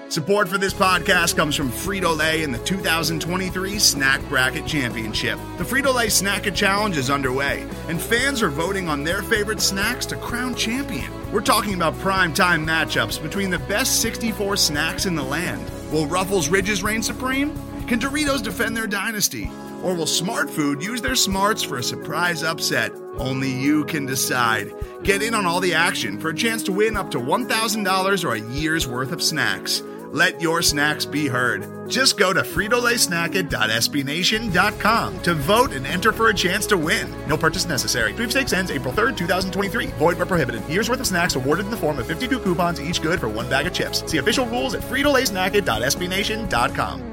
Support for this podcast comes from Frito-Lay and the 2023 Snack Bracket Championship. The Frito-Lay Snack-It Challenge is underway, and fans are voting on their favorite snacks to crown champion. We're talking about prime-time matchups between the best 64 snacks in the land. Will Ruffles Ridges reign supreme? Can Doritos defend their dynasty? Or will Smart Food use their smarts for a surprise upset? Only you can decide. Get in on all the action for a chance to win up to $1,000 or a year's worth of snacks. Let your snacks be heard. Just go to fritolaysnacket.sbnation.com to vote and enter for a chance to win. No purchase necessary. Sweepstakes ends April 3rd, 2023. Void where prohibited. Year's worth of snacks awarded in the form of 52 coupons, each good for one bag of chips. See official rules at fritolaysnacket.sbnation.com.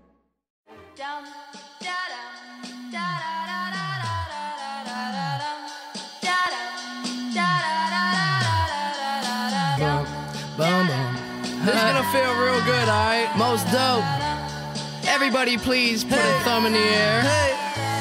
This is gonna feel real good, alright? Most dope. Everybody please put a thumb in the air. Hey.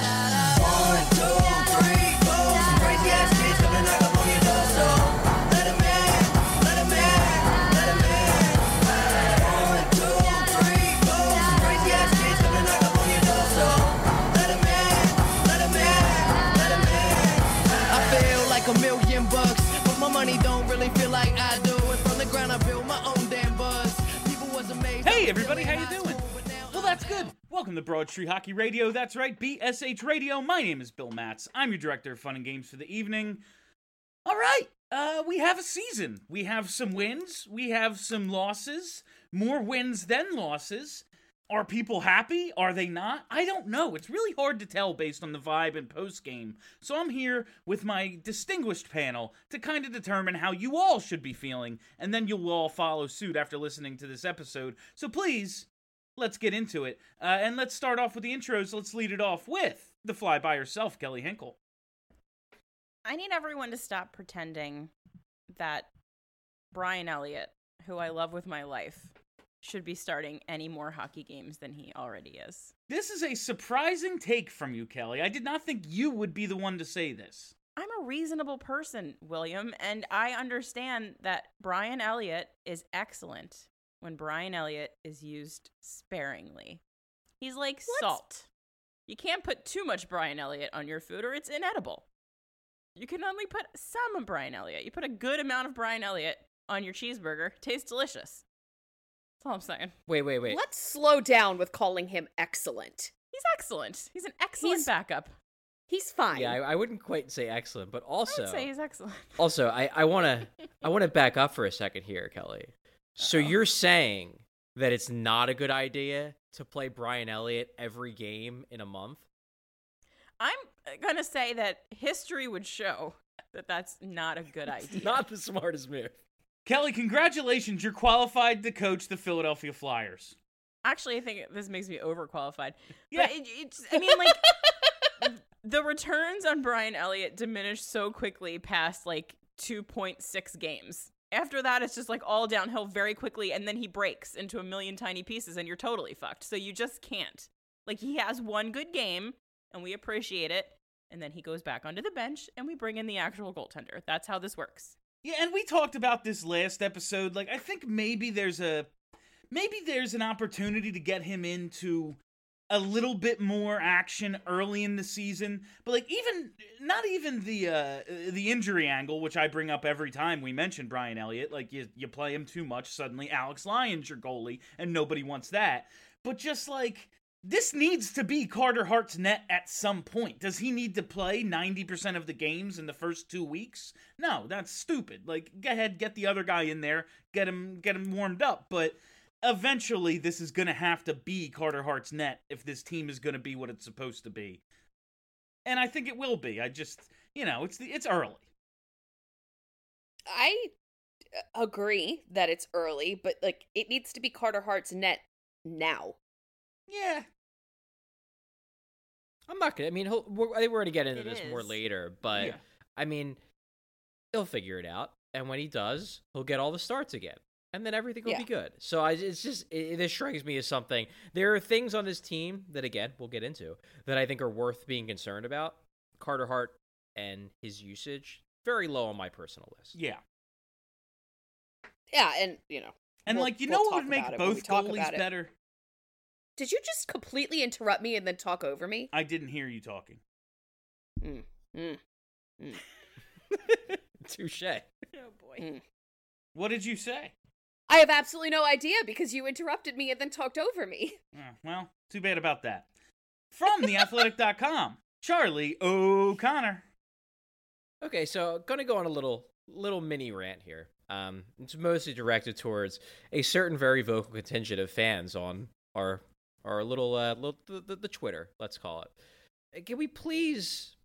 1, 2, 3, 4. Some crazy ass kids coming to knock up on your door, so let 'em in, let 'em in, let 'em in. 1, 2, 3, 4. Some crazy ass kids coming to knock up on your door, so let 'em in, let 'em in, let 'em in. I feel like $1,000,000, but my money don't really feel like I do. And from the ground I build my own damn buzz. People was amazed. Hey everybody, how you doing? Well, that's good. Welcome to Broad Street Hockey Radio. That's right, BSH Radio. My name is Bill Matz. I'm your director of fun and games for the evening. All right, we have a season. We have some wins. We have some losses. More wins than losses. Are people happy? Are they not? I don't know. It's really hard to tell based on the vibe and post-game. So I'm here with my distinguished panel to kind of determine how you all should be feeling, and then you'll all follow suit after listening to this episode. So please, let's get into it. And let's start off with the intros. Let's lead it off with the fly by herself, Kelly Hinkle. I need everyone to stop pretending that Brian Elliott, who I love with my life, should be starting any more hockey games than he already is. This is a surprising take from you, Kelly. I did not think you would be the one to say this. I'm a reasonable person, William, and I understand that Brian Elliott is excellent when Brian Elliott is used sparingly. He's like salt. You can't put too much Brian Elliott on your food or it's inedible. You can only put some of Brian Elliott. You put a good amount of Brian Elliott on your cheeseburger. Tastes delicious. That's all I'm saying. Wait. Let's slow down with calling him excellent. He's excellent. He's an excellent backup. He's fine. Yeah, I wouldn't quite say excellent, but also I'd say he's excellent. Also, I want to back up for a second here, Kelly. So you're saying that it's not a good idea to play Brian Elliott every game in a month? I'm going to say that history would show that that's not a good idea. Not the smartest move. Kelly, congratulations. You're qualified to coach the Philadelphia Flyers. Actually, I think this makes me overqualified. Yeah. But the returns on Brian Elliott diminished so quickly past 2.6 games. After that, it's just all downhill very quickly, and then he breaks into a million tiny pieces, and you're totally fucked. So you just can't. He has one good game, and we appreciate it, and then he goes back onto the bench, and we bring in the actual goaltender. That's how this works. Yeah, and we talked about this last episode. I think maybe there's an opportunity to get him into a little bit more action early in the season. But not even the injury angle, which I bring up every time we mention Brian Elliott. You play him too much, suddenly Alex Lyon's your goalie, and nobody wants that. But just this needs to be Carter Hart's net at some point. Does he need to play 90% of the games in the first 2 weeks? No, that's stupid. Go ahead, get the other guy in there, get him warmed up. But eventually, this is going to have to be Carter Hart's net if this team is going to be what it's supposed to be. And I think it will be. I just, it's early. I agree that it's early, but it needs to be Carter Hart's net now. Yeah. I'm not gonna. I think we're gonna get into this more is. later, but Yeah. He'll figure it out, and when he does, he'll get all the starts again, and then everything will be good. So this strikes me as something. There are things on this team that, again, we'll get into, that I think are worth being concerned about. Carter Hart and his usage, very low on my personal list. Yeah. Yeah, and, And We'll- like, you we'll know what talk would make about it when we both talk goalies about it. better? Did you just completely interrupt me and then talk over me? I didn't hear you talking. Touche. Oh boy. What did you say? I have absolutely no idea because you interrupted me and then talked over me. Well, too bad about that. From theathletic.com, Charlie O'Connor. Okay, so gonna go on a little mini rant here. It's mostly directed towards a certain very vocal contingent of fans on our little the Twitter, let's call it. Can we please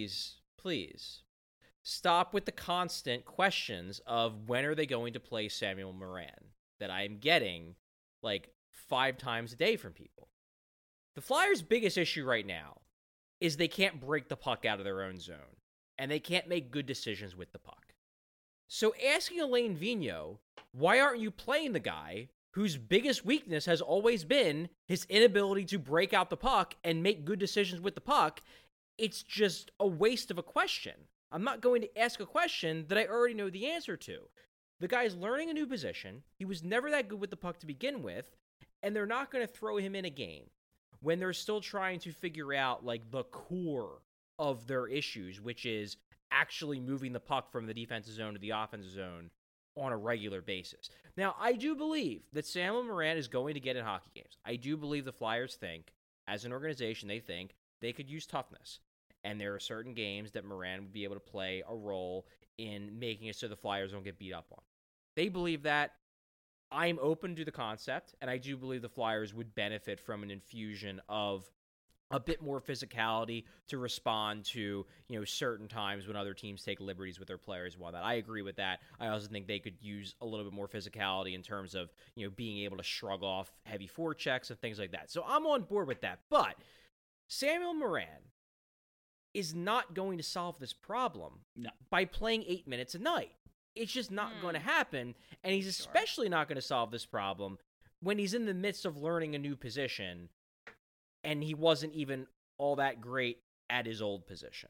stop with the constant questions of when are they going to play Samuel Morin that I am getting like 5 times a day from people? The Flyers' biggest issue right now is they can't break the puck out of their own zone, and they can't make good decisions with the puck. So asking Alain Vigneault, why aren't you playing the guy whose biggest weakness has always been his inability to break out the puck and make good decisions with the puck, it's just a waste of a question. I'm not going to ask a question that I already know the answer to. The guy's learning a new position. He was never that good with the puck to begin with, and they're not going to throw him in a game when they're still trying to figure out like the core of their issues, which is actually moving the puck from the defensive zone to the offensive zone on a regular basis. Now, I do believe that Samuel Morin is going to get in hockey games. I do believe the Flyers think, as an organization, they think they could use toughness. And there are certain games that Morin would be able to play a role in making it so the Flyers don't get beat up on. They believe that. I'm open to the concept, and I do believe the Flyers would benefit from an infusion of a bit more physicality to respond to, certain times when other teams take liberties with their players and whatnot. I agree with that. I also think they could use a little bit more physicality in terms of, being able to shrug off heavy forechecks and things like that. So I'm on board with that. But Samuel Morin is not going to solve this problem by playing 8 minutes a night. It's just not going to happen, and he's especially not going to solve this problem when he's in the midst of learning a new position, and he wasn't even all that great at his old position.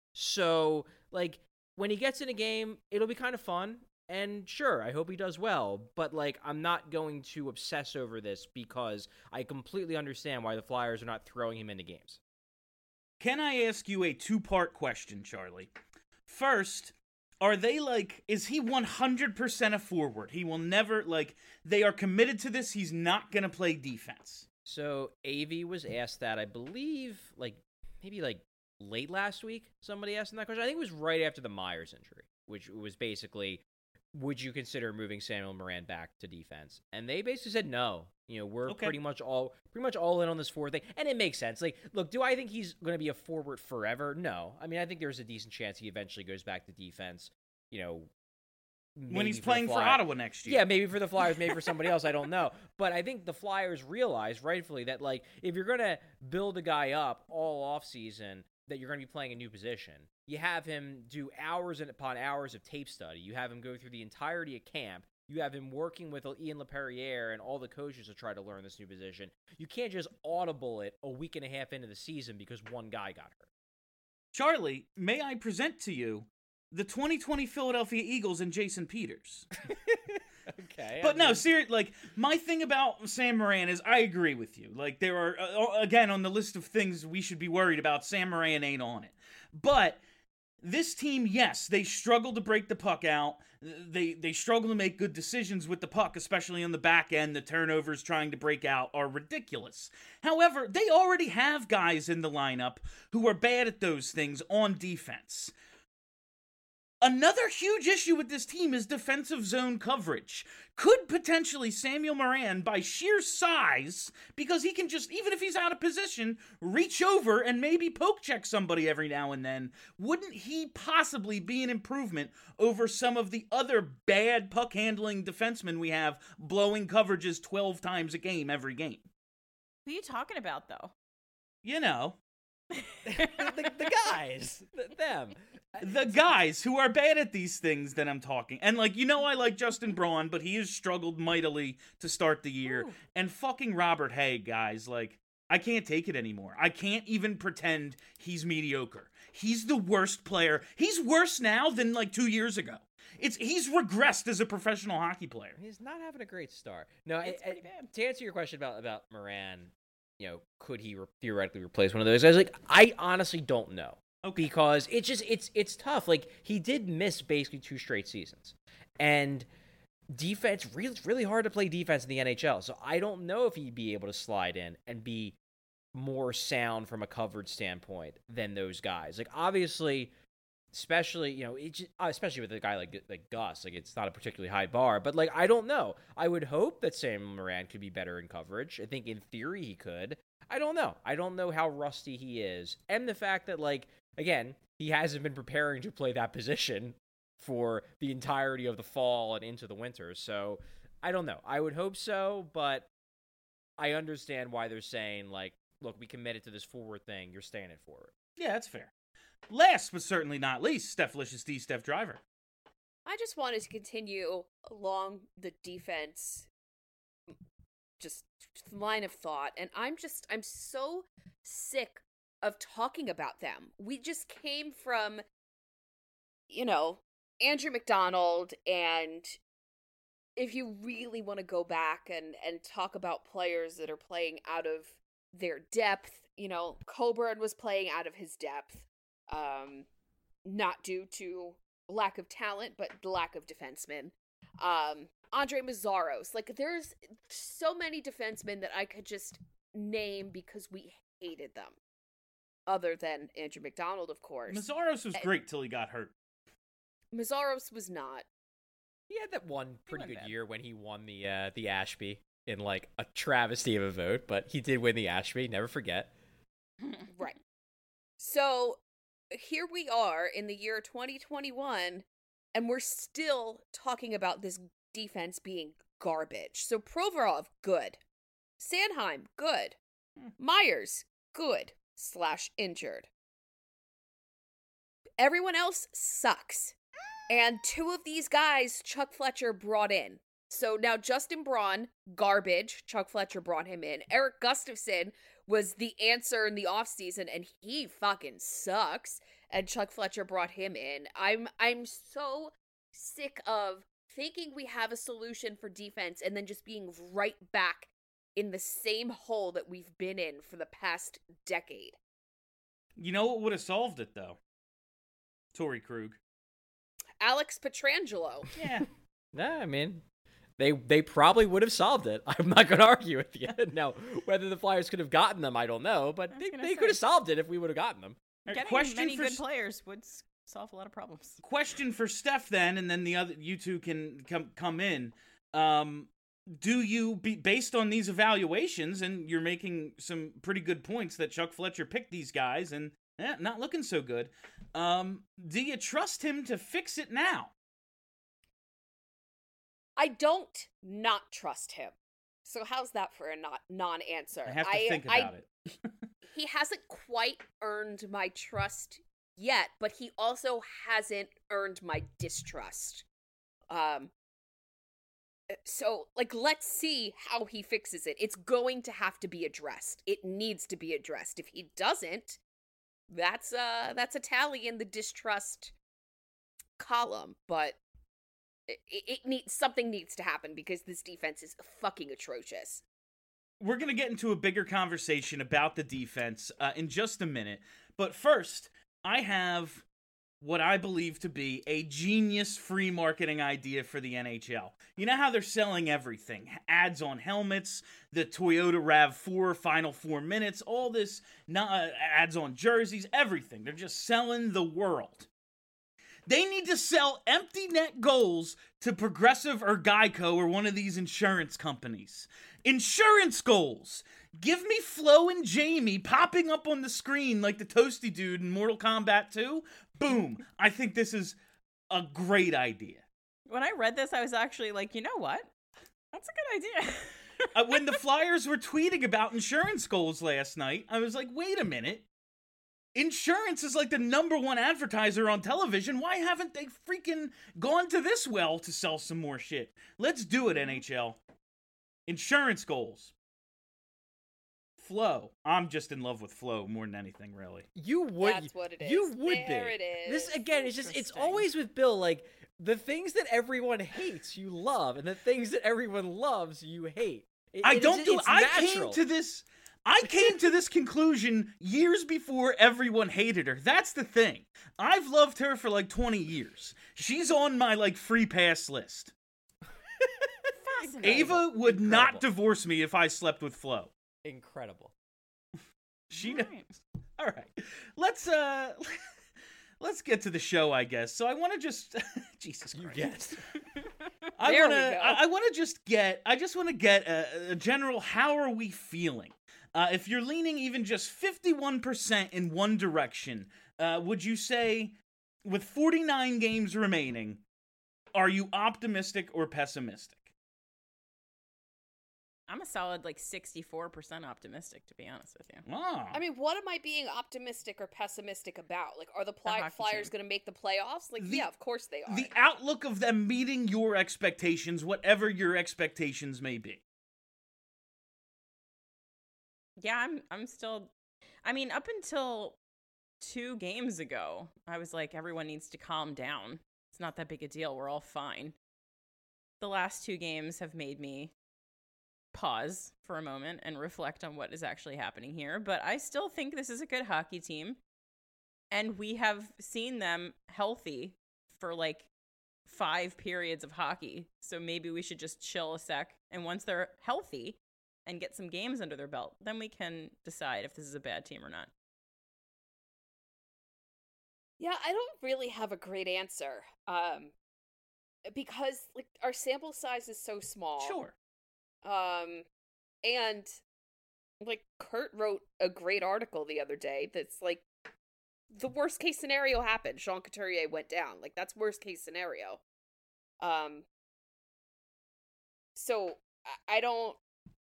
So, when he gets in a game, it'll be kind of fun, and sure, I hope he does well, but, I'm not going to obsess over this because I completely understand why the Flyers are not throwing him into games. Can I ask you a 2-part question, Charlie? First, are they is he 100% a forward? He will never, they are committed to this, he's not going to play defense. So, AV was asked that, I believe, maybe late last week, somebody asked him that question. I think it was right after the Myers injury, which was basically, would you consider moving Samuel Morin back to defense? And they basically said no. We're pretty much all in on this forward thing, and it makes sense. Look, do I think he's going to be a forward forever? No. I mean, I think there's a decent chance he eventually goes back to defense. When he's playing for Ottawa next year. Yeah, maybe for the Flyers, maybe for somebody else, I don't know. But I think the Flyers realize, rightfully, that, if you're going to build a guy up all offseason, that you're going to be playing a new position, you have him do hours upon hours of tape study. You have him go through the entirety of camp. You have him working with Ian LaPerriere and all the coaches to try to learn this new position. You can't just audible it a week and a half into the season because one guy got hurt. Charlie, may I present to you the 2020 Philadelphia Eagles and Jason Peters? Okay. But no, seriously, my thing about Sam Morin is I agree with you. There are, again, on the list of things we should be worried about, Sam Morin ain't on it. But this team, yes, they struggle to break the puck out. They struggle to make good decisions with the puck, especially on the back end. The turnovers trying to break out are ridiculous. However, they already have guys in the lineup who are bad at those things on defense. Another huge issue with this team is defensive zone coverage. Could potentially Samuel Morin, by sheer size, because he can just, even if he's out of position, reach over and maybe poke check somebody every now and then, wouldn't he possibly be an improvement over some of the other bad puck handling defensemen we have blowing coverages 12 times a game every game? Who are you talking about, though? The guys. Them. The guys who are bad at these things that I'm talking. And, I like Justin Braun, but he has struggled mightily to start the year. Ooh. And fucking Robert Haig, guys, I can't take it anymore. I can't even pretend he's mediocre. He's the worst player. He's worse now than, 2 years ago. he's regressed as a professional hockey player. He's not having a great start. No, It's pretty bad. to answer your question about Moran, could he theoretically replace one of those guys? Like, I honestly don't know. Okay. Because it's tough. Like, he did miss basically 2 straight seasons. And defense, it's really hard to play defense in the NHL. So I don't know if he'd be able to slide in and be more sound from a coverage standpoint than those guys. Like, obviously, especially, especially with a guy like Gus, like, it's not a particularly high bar. But, like, I don't know. I would hope that Sam Moran could be better in coverage. I think in theory he could. I don't know. I don't know how rusty he is. And the fact that, like, again, he hasn't been preparing to play that position for the entirety of the fall and into the winter. So, I don't know. I would hope so, but I understand why they're saying, like, look, we committed to this forward thing. You're staying at forward. Yeah, that's fair. Last but certainly not least, Steph-licious D, Steph Driver. I just wanted to continue along the defense just line of thought, and I'm so sick of talking about them. We just came from, Andrew McDonald, and if you really want to go back and talk about players that are playing out of their depth, Coburn was playing out of his depth, not due to lack of talent, but the lack of defensemen. Andre Mazzaros, like, there's so many defensemen that I could just name because we hated them. Other than Andrew McDonald, of course. Mazzaros was great till he got hurt. Mazzaros was not. He had that one pretty good year when he won the Ashby in, like, a travesty of a vote, but he did win the Ashby, never forget. Right. So, here we are in the year 2021, and we're still talking about this defense being garbage. So, Provorov, good. Sanheim, good. Myers, good. / injured. Everyone else sucks. And 2 of these guys Chuck Fletcher brought in. So now Justin Braun, garbage. Chuck Fletcher brought him in. Eric Gustafson was the answer in the offseason, and he fucking sucks. And Chuck Fletcher brought him in. I'm so sick of thinking we have a solution for defense and then just being right back in the same hole that we've been in for the past decade. You know what would have solved it, though? Torrey Krug. Alex Pietrangelo. Yeah. Nah, I mean, they probably would have solved it. I'm not going to argue with you. Now, whether the Flyers could have gotten them, I don't know, but they could have solved it if we would have gotten them. Getting many good players would solve a lot of problems. Question for Steph then, and then the other you two can come in. Do you, based on these evaluations, and you're making some pretty good points that Chuck Fletcher picked these guys, and not looking so good, do you trust him to fix it now? I don't not trust him. So how's that for a non-answer? I have to think about it. He hasn't quite earned my trust yet, but he also hasn't earned my distrust. So, like, let's see how he fixes it. It's going to have to be addressed. It needs to be addressed. If he doesn't, that's a tally in the distrust column. But something needs to happen because this defense is fucking atrocious. We're going to get into a bigger conversation about the defense in just a minute. But first, I have what I believe to be a genius free marketing idea for the NHL. You know how they're selling everything? Ads on helmets, the Toyota RAV4 final 4 minutes, all this, ads on jerseys, everything. They're just selling the world. They need to sell empty net goals to Progressive or Geico or one of these insurance companies. Insurance goals! Give me Flo and Jamie popping up on the screen like the Toasty Dude in Mortal Kombat 2. Boom. I think this is a great idea. When I read this, I was actually like, you know what? That's a good idea. When the Flyers were tweeting about insurance goals last night, I was like, wait a minute. Insurance is like the #1 advertiser on television. Why haven't they freaking gone to this well to sell some more shit? Let's do it, NHL. Insurance goals. Flo. I'm just in love with Flo more than anything, really. You would. That's what it is. You would there be. It is. This again is just. It's always with Bill. Like The things that everyone hates, you love, and the things that everyone loves, you hate. I came to this conclusion years before everyone hated her. That's the thing. I've loved her for like 20 years. She's on my like free pass list. Ava would not divorce me if I slept with Flo. Incredible. She knows. All right. Let's get to the show, I guess. So I want to just Jesus Christ. Yes. I just want to get a general how are we feeling? If you're leaning even just 51% in one direction, would you say with 49 games remaining, are you optimistic or pessimistic? I'm a solid like 64% optimistic, to be honest with you. Ah. I mean, what am I being optimistic or pessimistic about? Like, are the hockey Flyers team. going to make the playoffs? Like, yeah, of course they are. The outlook of them meeting your expectations, whatever your expectations may be. Yeah, I'm still. I mean, up until 2 games ago, I was like, everyone needs to calm down. It's not that big a deal. We're all fine. The last 2 games have made me pause for a moment and reflect on what is actually happening here. But I still think this is a good hockey team. And we have seen them healthy for like 5 periods of hockey. So maybe we should just chill a sec. And once they're healthy and get some games under their belt, then we can decide if this is a bad team or not. Yeah, I don't really have a great answer. Because like our sample size is so small. Sure. And like Kurt wrote a great article the other day that's like the worst case scenario happened. Sean Couturier went down. Like that's worst case scenario. So I don't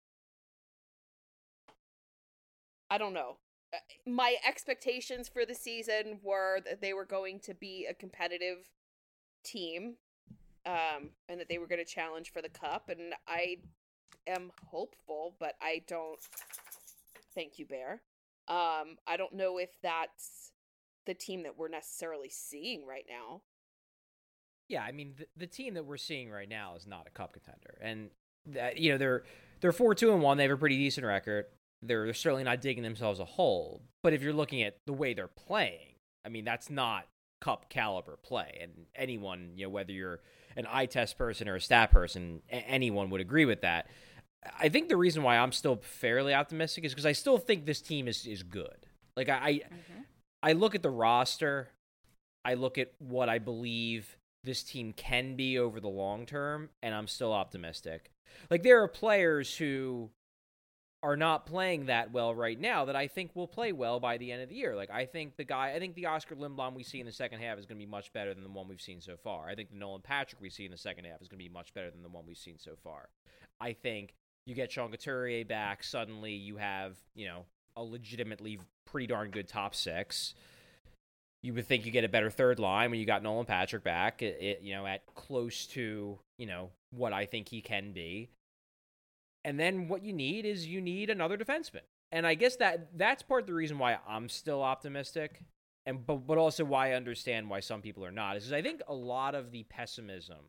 know. My expectations for the season were that they were going to be a competitive team, and that they were going to challenge for the cup, and I am hopeful, but I don't. Thank you, Bear. I don't know if that's the team that we're necessarily seeing right now. Yeah, I mean the team that we're seeing right now is not a cup contender, and that they're 4-2-1. They have a pretty decent record. They're certainly not digging themselves a hole. But if you're looking at the way they're playing, I mean that's not cup caliber play, and anyone, whether you're an eye test person or a stat person, anyone would agree with that. I think the reason why I'm still fairly optimistic is because I still think this team is good. Like I look at the roster, I look at what I believe this team can be over the long term, and I'm still optimistic. Like there are players who are not playing that well right now that I think will play well by the end of the year. Like I think the Oscar Lindblom we see in the second half is going to be much better than the one we've seen so far. I think the Nolan Patrick we see in the second half is going to be much better than the one we've seen so far. I think you get Sean Couturier back, suddenly you have, a legitimately pretty darn good top 6. You would think you get a better third line when you got Nolan Patrick back, at close to, what I think he can be. And then what you need is another defenseman. And I guess that's part of the reason why I'm still optimistic, but also why I understand why some people are not, is because I think a lot of the pessimism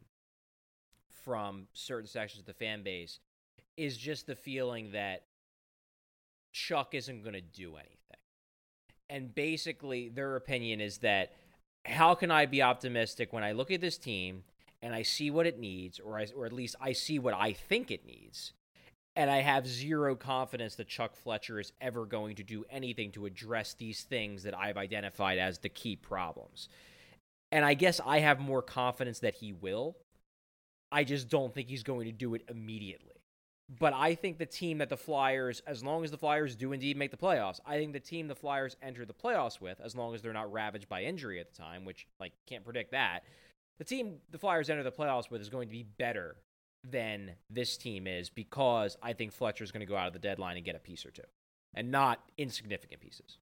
from certain sections of the fan base is just the feeling that Chuck isn't going to do anything. And basically their opinion is that how can I be optimistic when I look at this team and I see what it needs, or at least I see what I think it needs, and I have zero confidence that Chuck Fletcher is ever going to do anything to address these things that I've identified as the key problems. And I guess I have more confidence that he will. I just don't think he's going to do it immediately. But I think the team that the Flyers, as long as the Flyers do indeed make the playoffs, I think the team the Flyers enter the playoffs with, as long as they're not ravaged by injury at the time, which, can't predict that, the team the Flyers enter the playoffs with is going to be better than this team is, because I think Fletcher's going to go out of the deadline and get a piece or two, and not insignificant pieces.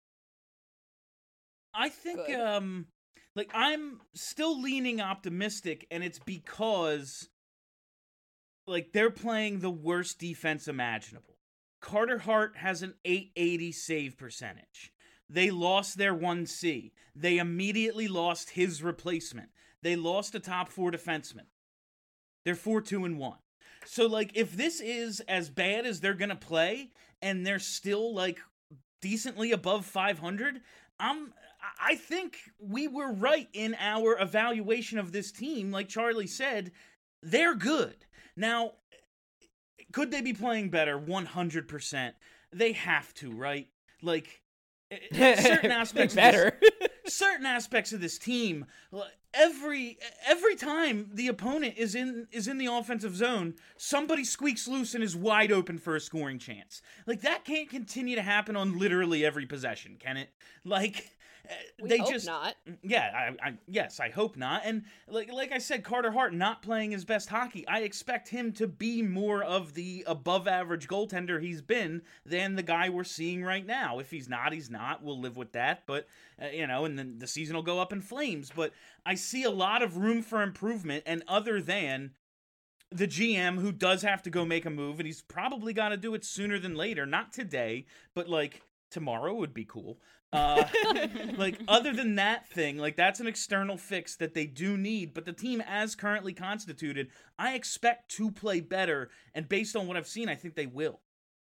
I think, I'm still leaning optimistic, and it's because, they're playing the worst defense imaginable. Carter Hart has an .880 save percentage. They lost their 1C. They immediately lost his replacement. they lost a top 4 defenseman. They're 4-2-1. So, like, if this is as bad as they're going to play and they're still, like, decently above 500, I think we were right in our evaluation of this team. Like Charlie said, they're good. Now, could they be playing better? 100%. They have to, right? Like, certain aspects better. Certain aspects of this team, every time the opponent is in the offensive zone, somebody squeaks loose and is wide open for a scoring chance. Like, that can't continue to happen on literally every possession, can it? Like, We hope not. Yeah, yes, I hope not. And like I said, Carter Hart not playing his best hockey. I expect him to be more of the above average goaltender he's been than the guy we're seeing right now. If he's not, he's not. We'll live with that. But and then the season will go up in flames. But I see a lot of room for improvement. And other than the GM, who does have to go make a move, and he's probably got to do it sooner than later. Not today, but like tomorrow would be cool. Like, other than that thing, like, that's an external fix that they do need, but the team as currently constituted, I expect to play better, and based on what I've seen, I think they will.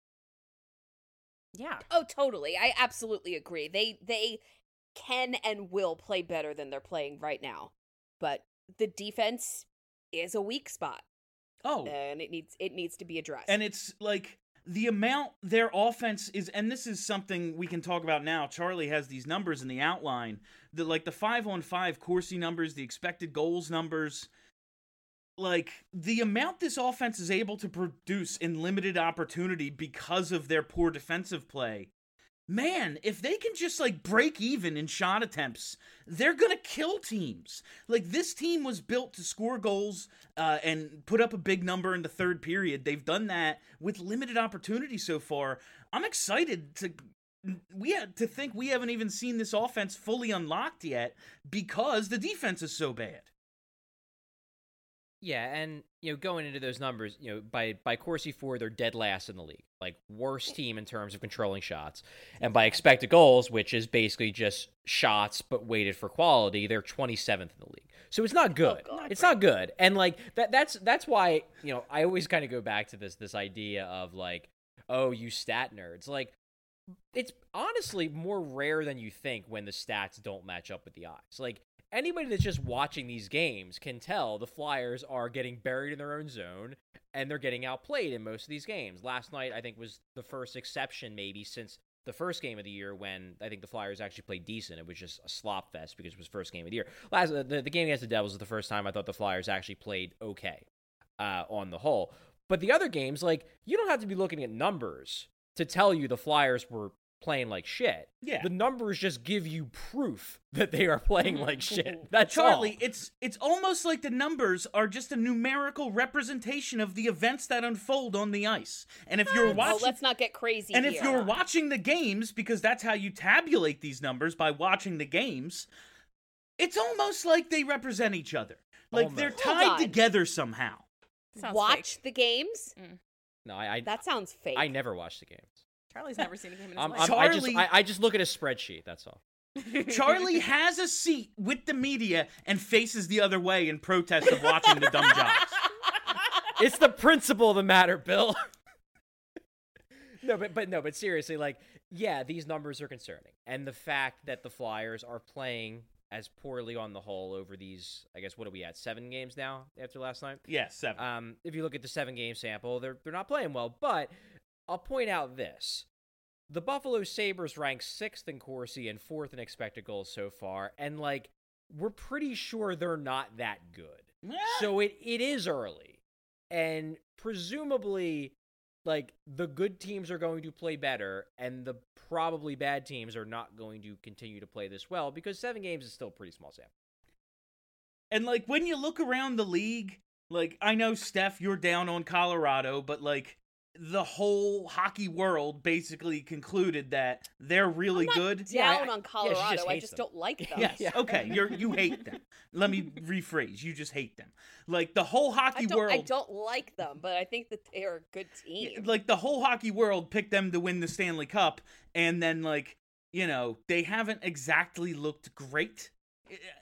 Yeah. Oh, totally. I absolutely agree. They can and will play better than they're playing right now. But the defense is a weak spot. Oh. And it needs to be addressed. And it's like the amount their offense is, and this is something we can talk about now. Charlie has these numbers in the outline. The 5-on-5 Corsi numbers, the expected goals numbers, like the amount this offense is able to produce in limited opportunity because of their poor defensive play. Man, if they can just like break even in shot attempts, they're gonna kill teams. Like, this team was built to score goals and put up a big number in the third period. They've done that with limited opportunity so far. I'm excited to think we haven't even seen this offense fully unlocked yet because the defense is so bad. Yeah, and going into those numbers, by Corsi 4, they're dead last in the league, like worst team in terms of controlling shots, and by expected goals, which is basically just shots but weighted for quality, they're 27th in the league. So it's not good. It's not good, and like that's why I always kind of go back to this idea of like, oh, you stat nerds. Like, it's honestly more rare than you think when the stats don't match up with the eyes. Like, anybody that's just watching these games can tell the Flyers are getting buried in their own zone, and they're getting outplayed in most of these games. Last night, I think, was the first exception maybe since the first game of the year when I think the Flyers actually played decent. It was just a slop fest because it was first game of the year. The game against the Devils was the first time I thought the Flyers actually played okay on the whole. But the other games, like, you don't have to be looking at numbers to tell you the Flyers were playing like shit. Yeah. The numbers just give you proof that they are playing like shit. That's Charlie, all. it's almost like the numbers are just a numerical representation of the events that unfold on the ice. And if you're watching, let's not get crazy and here. if you're watching the games, because that's how you tabulate these numbers, by watching the games, it's almost like they represent each other. Like, they're Almost. Hold tied on. together somehow. Sounds Watch fake. the games? No, I That sounds fake. I never watch the games. Charlie's never seen a game in his I'm- life. Charlie- I just look at a spreadsheet. That's all. Charlie has a seat with the media and faces the other way in protest of watching the dumb jobs. It's the principle of the matter, Bill. But seriously, like, yeah, these numbers are concerning, and the fact that the Flyers are playing as poorly on the whole over these, I guess, what are we at, 7 games now after last night? Yes, 7. If you look at the 7-game sample, they're not playing well. But I'll point out this: the Buffalo Sabres rank 6th in Corsi and 4th in expected goals so far, and like, we're pretty sure they're not that good. So it is early, and presumably, like, the good teams are going to play better, and the probably bad teams are not going to continue to play this well, because 7 games is still a pretty small sample. And, like, when you look around the league, like, I know, Steph, you're down on Colorado, but, like, the whole hockey world basically concluded that they're really I'm not good. down on she Colorado. just I hates just them. don't like them. Yes, okay, you hate them. Let me rephrase. You just hate them. Like, the whole hockey world... I don't like them, but I think that they're a good team. Like, the whole hockey world picked them to win the Stanley Cup, and then, like, they haven't exactly looked great.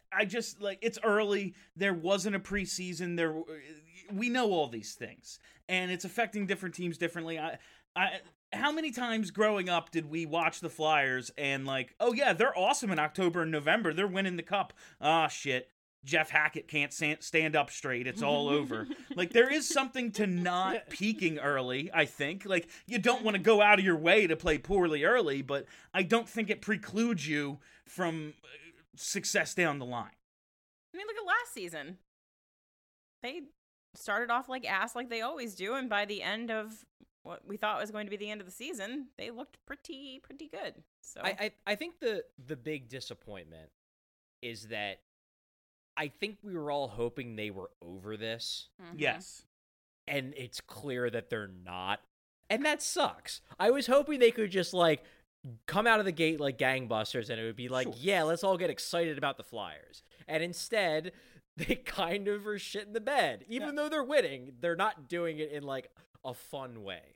I just like it's early. There wasn't a preseason. We know all these things, and it's affecting different teams differently. How many times growing up did we watch the Flyers and like, oh yeah, they're awesome in October and November. They're winning the cup. Ah, shit. Jeff Hackett can't stand up straight. It's all over. Like, there is something to not peaking early, I think. Like, you don't want to go out of your way to play poorly early, but I don't think it precludes you from success down the line. I mean, look at last season. They started off like ass like they always do, and by the end of what we thought was going to be the end of the season, they looked pretty good. So I think the big disappointment is that I think we were all hoping they were over this. Yes. And it's clear that they're not. And that sucks. I was hoping they could just, like, come out of the gate like gangbusters and it would be like, yeah, let's all get excited about the Flyers. And instead, they kind of are shitting the bed. Even though they're winning, they're not doing it in, like, a fun way.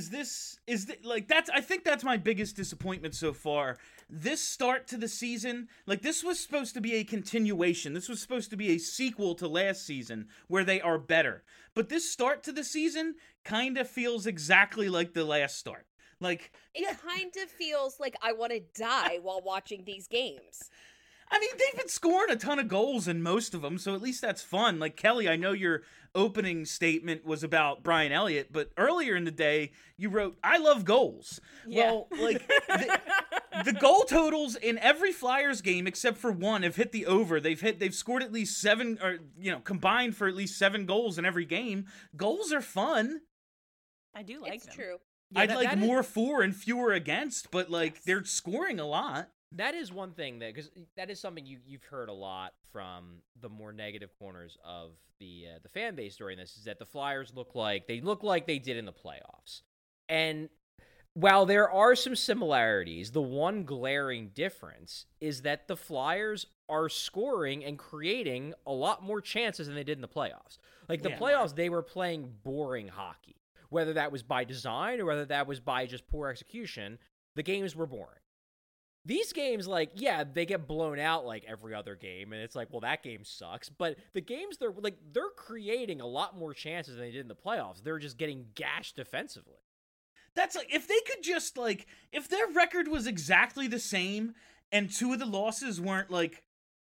I think that's my biggest disappointment so far. This start to the season, like, this was supposed to be a continuation. This was supposed to be a sequel to last season where they are better. But this start to the season kind of feels exactly like the last start. Like, it kind of feels like I want to die while watching these games. I mean, they've been scoring a ton of goals in most of them, so at least that's fun. Like, Kelly, I know your opening statement was about Brian Elliott, but earlier in the day, you wrote, I love goals. Yeah. Well, like, the goal totals in every Flyers game except for one have hit the over. They've scored at least 7, or, combined for at least 7 goals in every game. Goals are fun. I do like It's them. true. Yeah, I'd like more for and fewer against, but, like, they're scoring a lot. That is one thing because that is something you've heard a lot from the more negative corners of the fan base during this, is that the Flyers look like they did in the playoffs. And while there are some similarities, the one glaring difference is that the Flyers are scoring and creating a lot more chances than they did in the playoffs. Like, the playoffs, they were playing boring hockey. Whether that was by design or whether that was by just poor execution, the games were boring. These games, like, yeah, they get blown out like every other game, and it's like, well, that game sucks. But the games, they're creating a lot more chances than they did in the playoffs. They're just getting gashed defensively. That's like, if they could just, like, if their record was exactly the same and 2 of the losses weren't, like,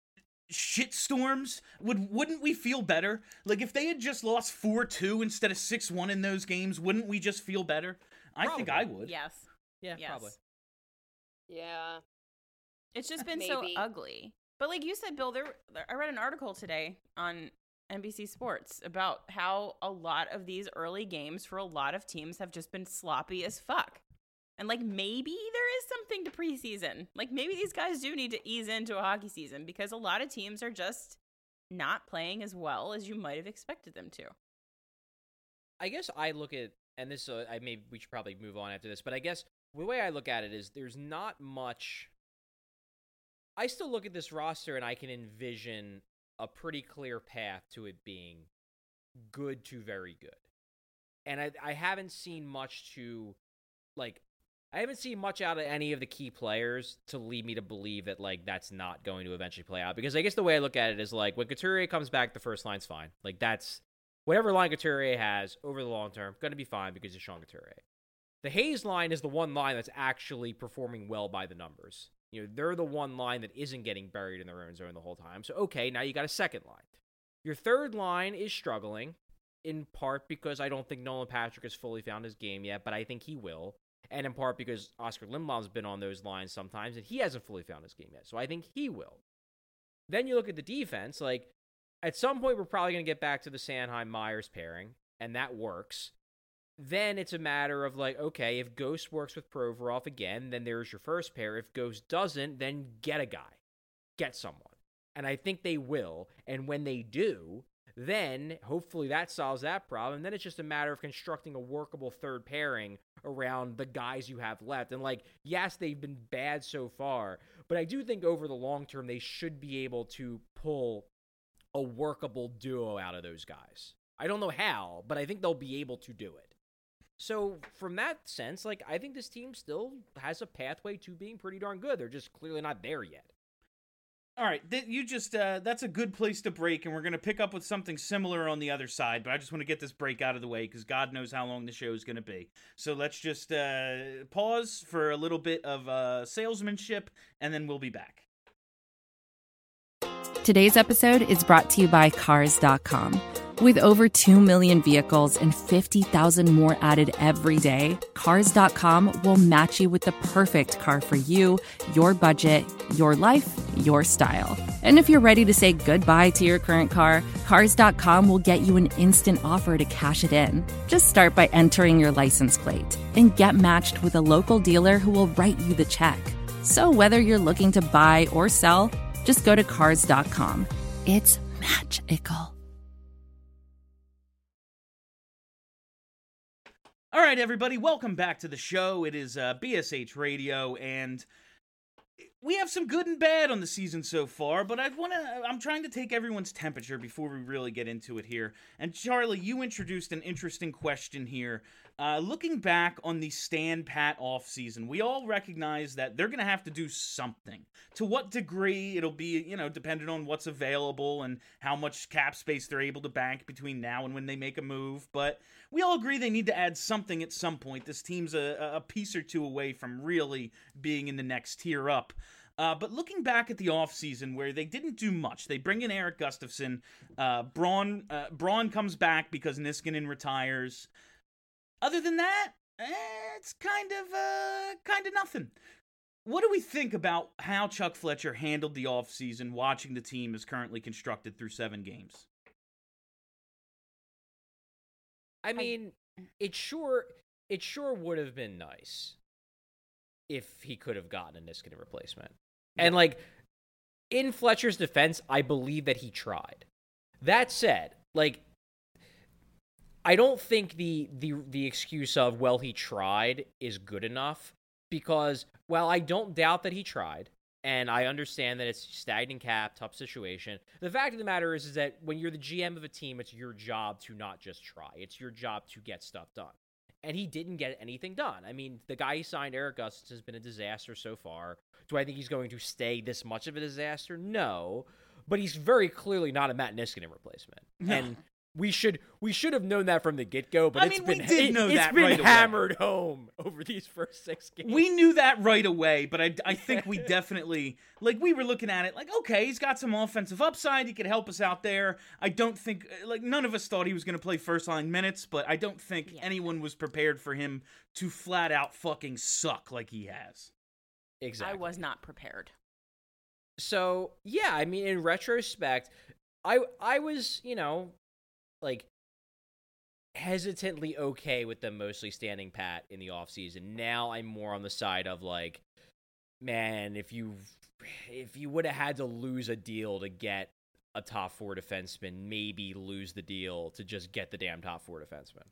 shitstorms, wouldn't we feel better? Like, if they had just lost 4-2 instead of 6-1 in those games, wouldn't we just feel better? I think I would. Yes. Yeah, Yes. probably. Yeah. It's just been so Maybe. ugly. But like you said, Bill, I read an article today on NBC Sports about how a lot of these early games for a lot of teams have just been sloppy as fuck. And like, maybe there is something to preseason. Like, maybe these guys do need to ease into a hockey season because a lot of teams are just not playing as well as you might have expected them to. I guess I look at, and this, we should probably move on after this, but I guess the way I look at it is there's not much. I still look at this roster and I can envision a pretty clear path to it being good to very good. And I haven't seen much out of any of the key players to lead me to believe that, like, that's not going to eventually play out. Because I guess the way I look at it is, like, when Couturier comes back, the first line's fine. Like, that's whatever line Couturier has over the long term, going to be fine because of Sean Couturier. The Hayes line is the one line that's actually performing well by the numbers. You know, they're the one line that isn't getting buried in their own zone the whole time. So, okay, now you got a second line. Your third line is struggling, in part because I don't think Nolan Patrick has fully found his game yet, but I think he will. And in part because Oscar Lindblom's been on those lines sometimes, and he hasn't fully found his game yet. So I think he will. Then you look at the defense, like, at some point we're probably going to get back to the Sanheim-Myers pairing, and that works. Then it's a matter of, like, okay, if Ghost works with Provorov again, then there's your first pair. If Ghost doesn't, then get a guy. Get someone. And I think they will. And when they do, then hopefully that solves that problem. And then it's just a matter of constructing a workable third pairing around the guys you have left. And, like, yes, they've been bad so far, but I do think over the long term they should be able to pull a workable duo out of those guys. I don't know how, but I think they'll be able to do it. So from that sense, like, I think this team still has a pathway to being pretty darn good. They're just clearly not there yet. All right, you just that's a good place to break, and we're going to pick up with something similar on the other side, but I just want to get this break out of the way because God knows how long the show is going to be. So let's just pause for a little bit of salesmanship, and then we'll be back. Today's episode is brought to you by Cars.com. With over 2 million vehicles and 50,000 more added every day, Cars.com will match you with the perfect car for you, your budget, your life, your style. And if you're ready to say goodbye to your current car, Cars.com will get you an instant offer to cash it in. Just start by entering your license plate and get matched with a local dealer who will write you the check. So whether you're looking to buy or sell, just go to Cars.com. It's magical. All right, everybody, welcome back to the show. It is BSH Radio, and we have some good and bad on the season so far, but I'm trying to take everyone's temperature before we really get into it here. And Charlie, you introduced an interesting question here. Looking back on the Stan Pat offseason, we all recognize that they're going to have to do something. To what degree, it'll be, dependent on what's available and how much cap space they're able to bank between now and when they make a move. But we all agree they need to add something at some point. This team's a piece or two away from really being in the next tier up. But looking back at the offseason where they didn't do much, they bring in Erik Gustafsson. Braun comes back because Niskanen retires. Other than that, it's kind of nothing. What do we think about how Chuck Fletcher handled the offseason, watching the team as currently constructed through 7 games? I mean, it sure would have been nice if he could have gotten a Niskanen replacement. And, in Fletcher's defense, I believe that he tried. That said, I don't think the excuse of, well, he tried is good enough because, while I don't doubt that he tried, and I understand that it's stagnant cap, tough situation, the fact of the matter is that when you're the GM of a team, it's your job to not just try. It's your job to get stuff done. And he didn't get anything done. I mean, the guy he signed, Erik Gustafsson, has been a disaster so far. Do I think he's going to stay this much of a disaster? No. But he's very clearly not a Matt Niskanen replacement. No. And we should have known that from the get-go, but it's been hammered home over these first 6 games. We knew that right away, but I think we definitely, we were looking at it okay, he's got some offensive upside, he could help us out there. I don't think, none of us thought he was going to play first-line minutes, but I don't think anyone was prepared for him to flat-out fucking suck like he has. Exactly. I was not prepared. So, yeah, I mean, in retrospect, I was, hesitantly okay with them mostly standing pat in the offseason. Now I'm more on the side of man, if you would have had to lose a deal to get a top 4 defenseman, maybe lose the deal to just get the damn top 4 defenseman.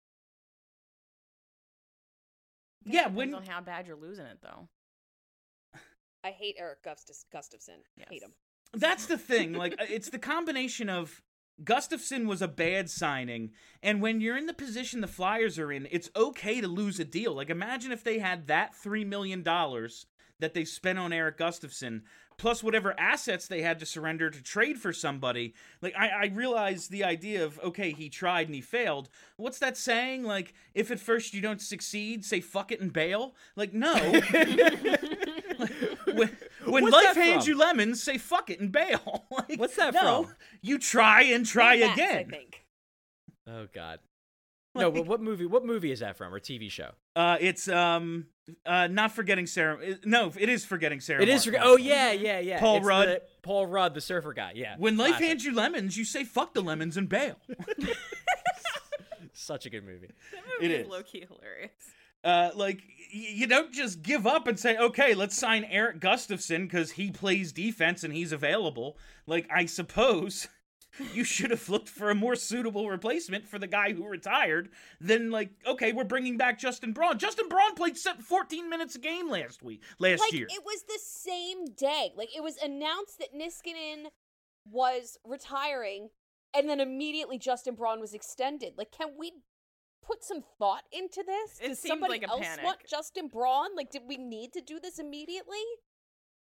Yeah, depends on how bad you're losing it, though. I hate Erik Gustafsson. Yes. Hate him. That's the thing. It's the combination of Gustafsson was a bad signing, and when you're in the position the Flyers are in, it's okay to lose a deal. Imagine if they had that $3 million that they spent on Erik Gustafsson, plus whatever assets they had to surrender to trade for somebody. I realize the idea of, okay, he tried and he failed. What's that saying? If at first you don't succeed, say fuck it and bail? No. When life hands you lemons, say fuck it and bail. What's that from? You try and try again. I think. Oh God. No, but what movie is that from, or TV show? It's not Forgetting Sarah. No, it is Forgetting Sarah. It is. Oh yeah. Paul Rudd. Paul Rudd, the surfer guy. Yeah. When life hands you lemons, you say fuck the lemons and bail. Such a good movie. That movie is low-key hilarious. You don't just give up and say, okay, let's sign Erik Gustafsson because he plays defense and he's available. I suppose you should have looked for a more suitable replacement for the guy who retired than, okay, we're bringing back Justin Braun. Justin Braun played 14 minutes a game last year. It was the same day. It was announced that Niskanen was retiring, and then immediately Justin Braun was extended. Can we put some thought into this? It Does seemed somebody like a else panic. want Justin Braun? Did we need to do this immediately?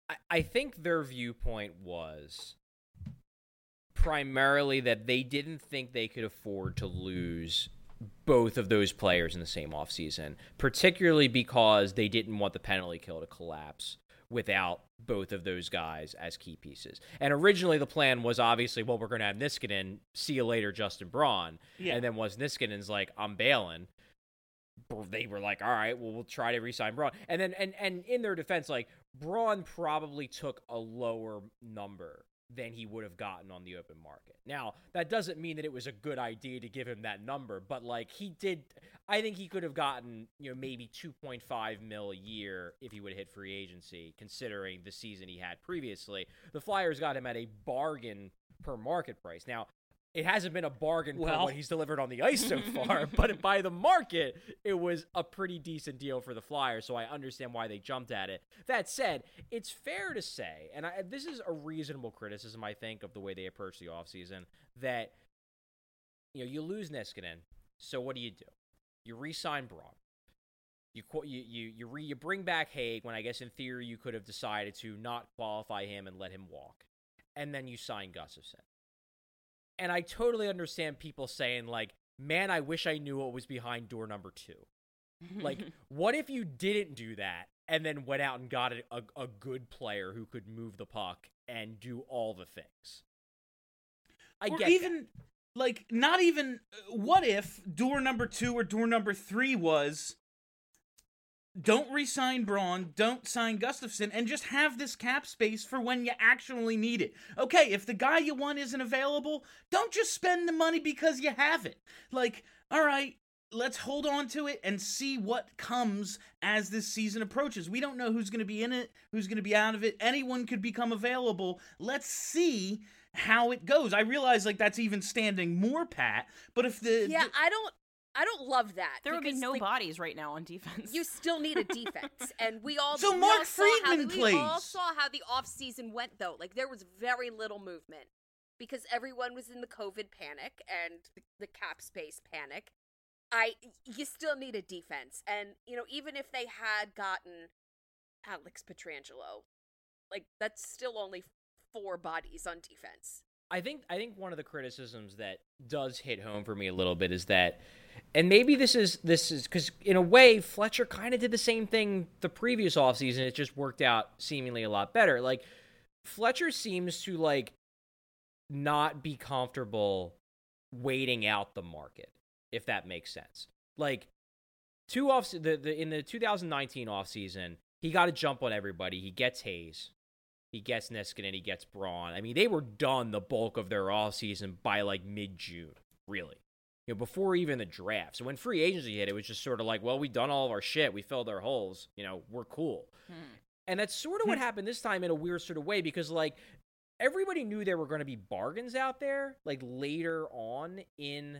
I think their viewpoint was primarily that they didn't think they could afford to lose both of those players in the same offseason, particularly because they didn't want the penalty kill to collapse without both of those guys as key pieces. And originally the plan was obviously, well, we're going to have Niskanen, see you later, Justin Braun. Yeah. And then once Niskanen's like, I'm bailing, they were like, all right, well, we'll try to re-sign Braun. And then, and in their defense, like, Braun probably took a lower number than he would have gotten on the open market. Now, that doesn't mean that it was a good idea to give him that number, but like I think he could have gotten, maybe 2.5 mil a year if he would have hit free agency, considering the season he had previously. The Flyers got him at a bargain per market price. Now, it hasn't been a bargain for what he's delivered on the ice so far, but by the market, it was a pretty decent deal for the Flyers, so I understand why they jumped at it. That said, it's fair to say, and this is a reasonable criticism, I think, of the way they approach the offseason, that you lose Niskanen, so what do? You re-sign Braun. You bring back Haig, when I guess in theory you could have decided to not qualify him and let him walk, and then you sign Gustafsson. And I totally understand people saying, like, man, I wish I knew what was behind door number 2. Like, what if you didn't do that and then went out and got a good player who could move the puck and do all the things? I get even, that. Like, not even, what if door number 2 or door number 3 was, don't re-sign Braun, don't sign Gustafsson, and just have this cap space for when you actually need it. Okay, if the guy you want isn't available, don't just spend the money because you have it. Like, all right, let's hold on to it and see what comes as this season approaches. We don't know who's going to be in it, who's going to be out of it. Anyone could become available. Let's see how it goes. I realize, like, that's even standing more pat, but if the... Yeah, I don't love that. There would be no bodies right now on defense. You still need a defense, and we all so Mark Friedman plays. We all saw how the offseason went, though. Like, there was very little movement because everyone was in the COVID panic and the cap space panic. You still need a defense, and even if they had gotten Alex Pietrangelo, like, that's still only 4 bodies on defense. I think one of the criticisms that does hit home for me a little bit is that, and maybe this is because in a way Fletcher kind of did the same thing the previous offseason. It just worked out seemingly a lot better. Like, Fletcher seems to like not be comfortable waiting out the market, if that makes sense. Like, in the 2019 offseason, he got a jump on everybody. He gets Hayes. He gets Niskanen, he gets Braun. I mean, they were done the bulk of their offseason by, like, mid-June, really. Before even the draft. So when free agency hit, it was just sort of like, well, we've done all of our shit. We filled our holes. We're cool. And that's sort of what happened this time in a weird sort of way because, like, everybody knew there were going to be bargains out there, like, later on in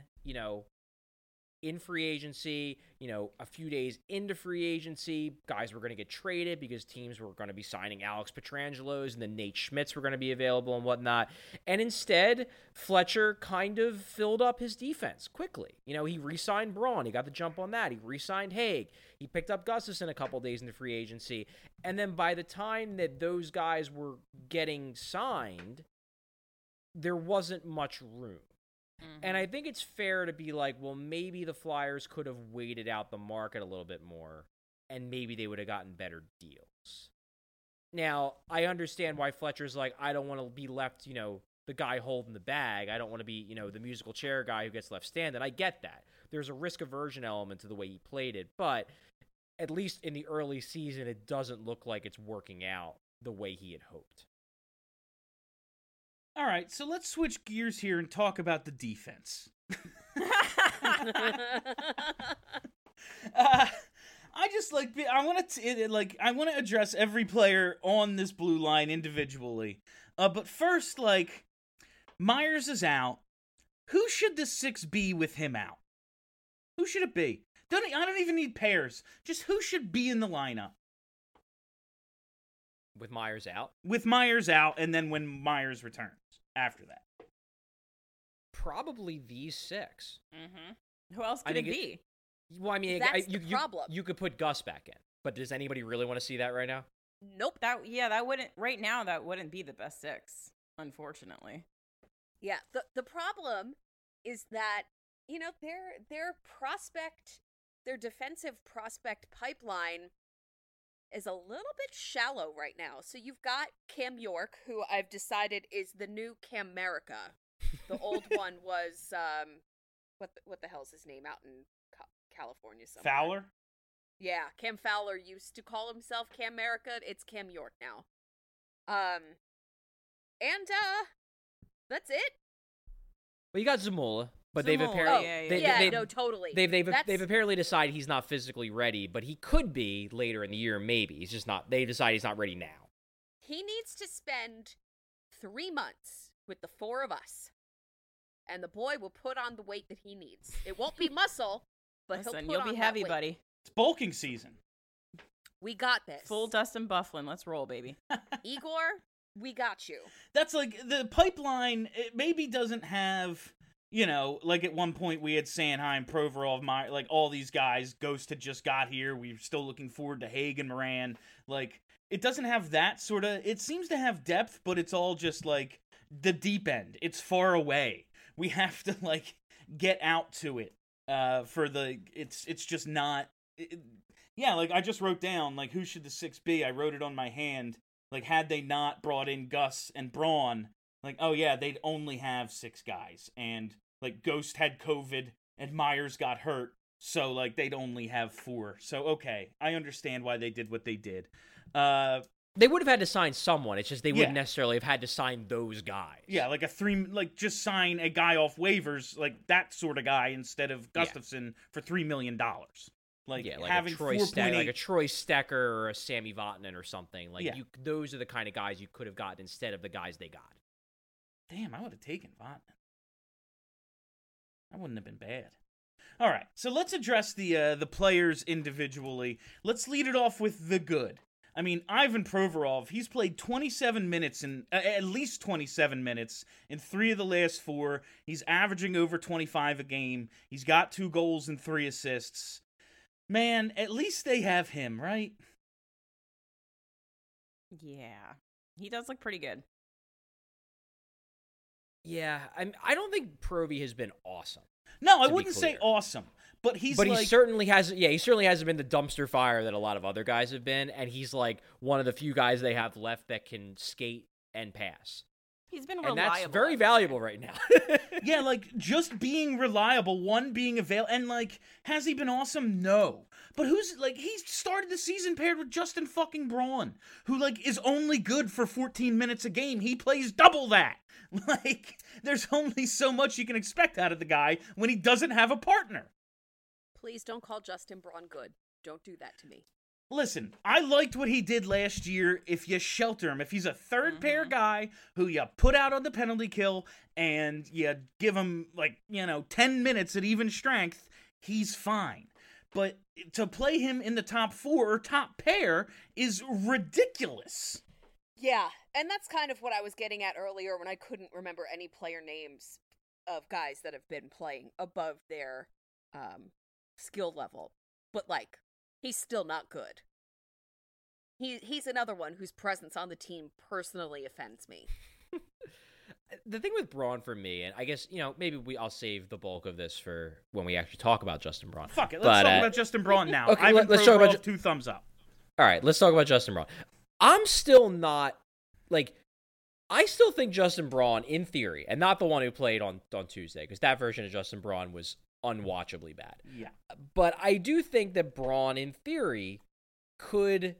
free agency, a few days into free agency, guys were going to get traded because teams were going to be signing Alex Pietrangelos and then Nate Schmitz were going to be available and whatnot. And instead, Fletcher kind of filled up his defense quickly. He re-signed Braun. He got the jump on that. He re-signed Haig. He picked up Gustafsson a couple days into free agency. And then by the time that those guys were getting signed, there wasn't much room. And I think it's fair to be like, well, maybe the Flyers could have waited out the market a little bit more, and maybe they would have gotten better deals. Now, I understand why Fletcher's like, I don't want to be left, the guy holding the bag. I don't want to be, the musical chair guy who gets left standing. I get that. There's a risk aversion element to the way he played it, but at least in the early season, it doesn't look like it's working out the way he had hoped. All right, so let's switch gears here and talk about the defense. I want to address every player on this blue line individually. But first, Myers is out. Who should the 6 be with him out? Who should it be? I don't even need pairs. Just who should be in the lineup? With Myers out? With Myers out, and then when Myers returns after that. Probably these 6. Mm-hmm. Who else could it be? Well, I mean, That's the problem. You could put Gus back in, but does anybody really want to see that right now? Nope. That wouldn't right now. That wouldn't be the best 6, unfortunately. Yeah. The problem is that, their defensive prospect pipeline is a little bit shallow right now. So you've got Cam York, who I've decided is the new Cam America. The old one was what the hell's his name out in California somewhere? Fowler? Yeah, Cam Fowler used to call himself Cam America. It's Cam York now. And that's it. Well, you got Zamula, but they've Zamula, apparently no, totally. They've apparently decided he's not physically ready, but he could be later in the year. Maybe he's just not. They decide he's not ready now. He needs to spend 3 months with the 4 of us, and the boy will put on the weight that he needs. It won't be muscle, but Listen, he'll put you'll be on heavy, that weight. buddy. It's bulking season. We got this. Full Dustin Bufflin. Let's roll, baby. Igor, we got you. That's like the pipeline. It maybe doesn't have, like at one point we had Sanheim, Provorov, like all these guys. Ghost had just got here. We were still looking forward to Haig and Moran. Like it doesn't have that sort of. It seems to have depth, but it's all just like the deep end. It's far away. We have to like get out to it. It's just not. Yeah, like I just wrote down like who should the 6 be? I wrote it on my hand. Like had they not brought in Gus and Braun, like oh yeah, they'd only have 6 guys, and like Ghost had COVID and Myers got hurt, so like they'd only have 4. So okay, I understand why they did what they did. They would have had to sign someone. It's just they wouldn't necessarily have had to sign those guys. Yeah, like just sign a guy off waivers, like that sort of guy instead of Gustafson for $3 million. Like having a Troy 4.8, like a Troy Stecker or a Sammy Vatanen or something. Like those are the kind of guys you could have gotten instead of the guys they got. Damn, I would have taken Vatanen. That wouldn't have been bad. All right, so let's address the players individually. Let's lead it off with the good. I mean, Ivan Provorov, he's played 27 minutes at least 27 minutes in 3 of the last 4. He's averaging over 25 a game. He's got 2 goals and 3 assists. Man, at least they have him, right? Yeah. He does look pretty good. Yeah, I don't think Provy has been awesome. No, I wouldn't say awesome, but he certainly hasn't been the dumpster fire that a lot of other guys have been, and he's like one of the few guys they have left that can skate and pass. He's been reliable. And that's very valuable right now. Yeah, like, just being reliable, being available, and, like, has he been awesome? No. But he started the season paired with Justin fucking Braun, who, like, is only good for 14 minutes a game. He plays double that. Like, there's only so much you can expect out of the guy when he doesn't have a partner. Please don't call Justin Braun good. Don't do that to me. Listen, I liked what he did last year if you shelter him. If he's a third pair guy who you put out on the penalty kill and you give him, 10 minutes at even strength, he's fine. But to play him in the top 4 or top pair is ridiculous. Yeah, and that's kind of what I was getting at earlier when I couldn't remember any player names of guys that have been playing above their skill level. But, he's still not good. He's another one whose presence on the team personally offends me. The thing with Braun for me, and I guess, maybe I'll save the bulk of this for when we actually talk about Justin Braun. Fuck it, let's talk about Justin Braun now. Okay, let's talk about 2 thumbs up. All right, let's talk about Justin Braun. I'm still not, I still think Justin Braun, in theory, and not the one who played on Tuesday, because that version of Justin Braun was unwatchably bad. Yeah. But I do think that Braun, in theory, could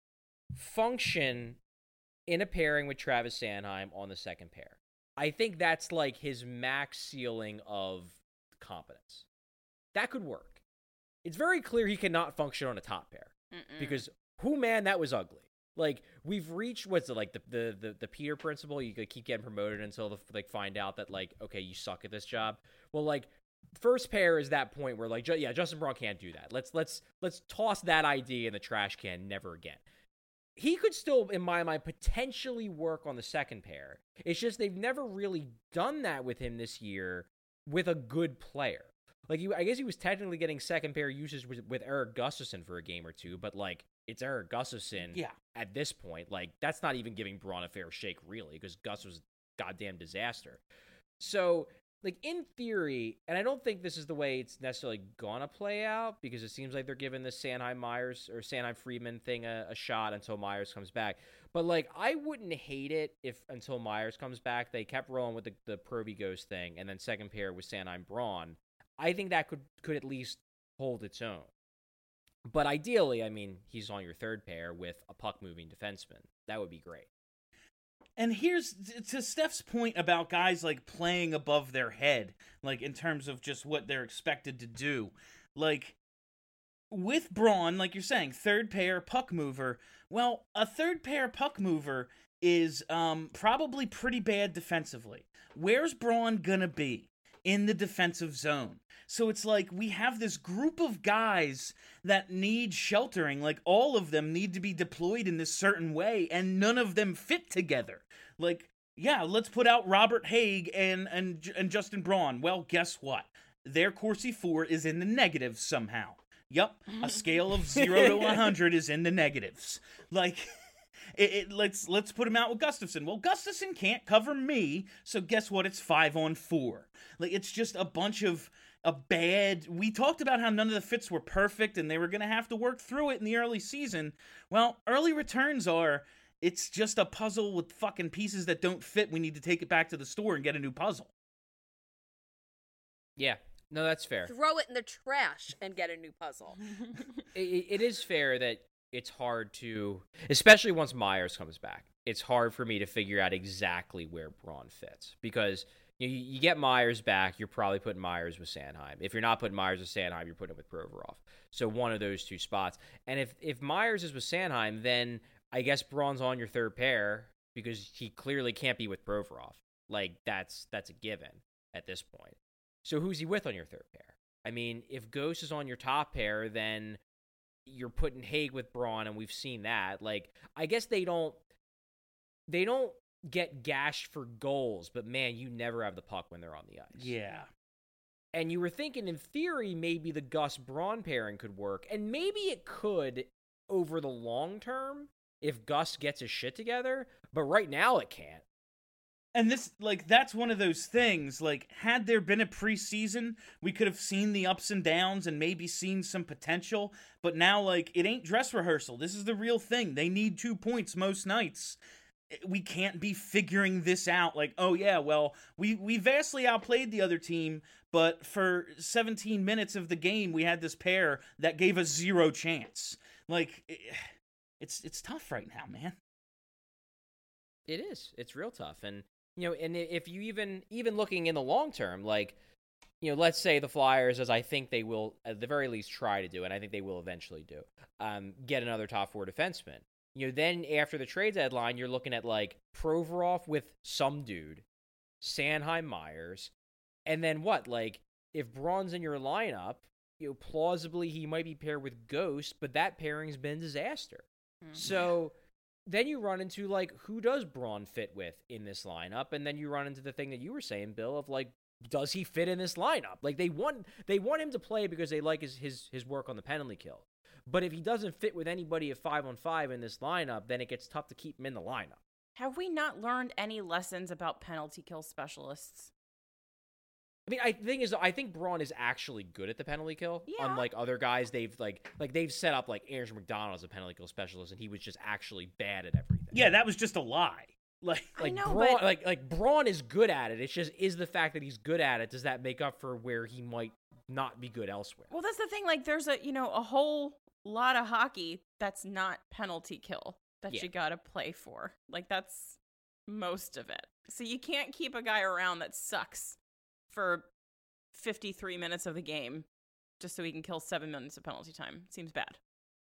function in a pairing with Travis Sanheim on the second pair. I think that's his max ceiling of competence. That could work. It's very clear he cannot function on a top pair. Because, that was ugly. We've reached, what's it, the Peter principle? You keep getting promoted until find out that, okay, you suck at this job. Well, first pair is that point where Justin Braun can't do that. Let's toss that idea in the trash can. Never again. He could still, in my mind, potentially work on the second pair. It's just they've never really done that with him this year with a good player. Like, I guess he was technically getting second pair usage with Eric Gustafson for a game or two, but, like, it's Eric Gustafson at this point. Like, that's not even giving Braun a fair shake, really, because Gus was a goddamn disaster. So, like, in theory, and I don't think this is the way it's necessarily gonna play out, because it seems like they're giving the Sanheim-Myers or Sanheim-Friedman thing a shot until Myers comes back. But, like, I wouldn't hate it if until Myers comes back, they kept rolling with the Proby Ghost thing, and then second pair with Sanheim-Braun. I think that could at least hold its own. But ideally, I mean, he's on your third pair with a puck-moving defenseman. That would be great. And here's, to Steph's point about guys, like, playing above their head, like, in terms of just what they're expected to do. Like, with Braun, like you're saying, third pair puck mover, well, a third pair puck mover is probably pretty bad defensively. Where's Braun gonna be? In the defensive zone. So it's like we have this group of guys that need sheltering, like all of them need to be deployed in this certain way, and none of them fit together. Like, yeah, let's put out Robert Haig and Justin Braun. Well, guess what? Their Corsi 4 is in the negatives somehow. Yup, a scale of 0 to 100 is in the negatives. Like, let's put him out with Gustafson. Well, Gustafson can't cover me, so guess what? It's 5-on-4. Like, it's just a bunch of a bad. We talked about how none of the fits were perfect, and they were going to have to work through it in the early season. Well, early returns are. It's just a puzzle with fucking pieces that don't fit. We need to take it back to the store and get a new puzzle. Yeah. No, that's fair. Throw it in the trash and get a new puzzle. It is fair that it's hard to, especially once Myers comes back, it's hard for me to figure out exactly where Braun fits. Because you get Myers back, you're probably putting Myers with Sanheim. If you're not putting Myers with Sanheim, you're putting him with Provorov. So one of those two spots. And if Myers is with Sanheim, then I guess Braun's on your third pair because he clearly can't be with Provorov. Like, that's a given at this point. So who's he with on your third pair? I mean, if Ghost is on your top pair, then you're putting Haig with Braun, and we've seen that. Like, I guess they don't get gashed for goals, but man, you never have the puck when they're on the ice. Yeah. And you were thinking, in theory, maybe the Gus-Braun pairing could work, and maybe it could over the long term if Gus gets his shit together, but right now it can't. And this, like, that's one of those things, like, had there been a preseason, we could have seen the ups and downs and maybe seen some potential, but now, like, it ain't dress rehearsal. This is the real thing. They need 2 points most nights. We can't be figuring this out, like, oh yeah, well, we vastly outplayed the other team, but for 17 minutes of the game, we had this pair that gave us 0 chance. Like, it's tough right now, man. It is. It's real tough. And, you know, and if you even looking in the long term, like, you know, let's say the Flyers, as I think they will at the very least try to do, and I think they will eventually do, get another top 4 defenseman. You know, then after the trade deadline, you're looking at, like, Provorov with some dude, Sanheim Myers, and then what? Like, if Braun's in your lineup, you know, plausibly he might be paired with Ghost, but that pairing's been a disaster. Mm-hmm. So then you run into, like, who does Braun fit with in this lineup? And then you run into the thing that you were saying, Bill, of, like, does he fit in this lineup? Like, they want him to play because they like his work on the penalty kill. But if he doesn't fit with anybody at 5-on-5 in this lineup, then it gets tough to keep him in the lineup. Have we not learned any lessons about penalty kill specialists? I mean, I think Braun is actually good at the penalty kill. Yeah. Unlike other guys, they've they've set up like Andrew McDonald as a penalty kill specialist, and he was just actually bad at everything. Yeah, that was just a lie. Like know, Braun, but like Braun is good at it. It's just, is the fact that he's good at it, does that make up for where he might not be good elsewhere? Well, that's the thing. Like, there's a whole lot of hockey that's not penalty kill that you gotta play for. Like, that's most of it. So you can't keep a guy around that sucks for 53 minutes of the game just so he can kill 7 minutes of penalty time. Seems bad.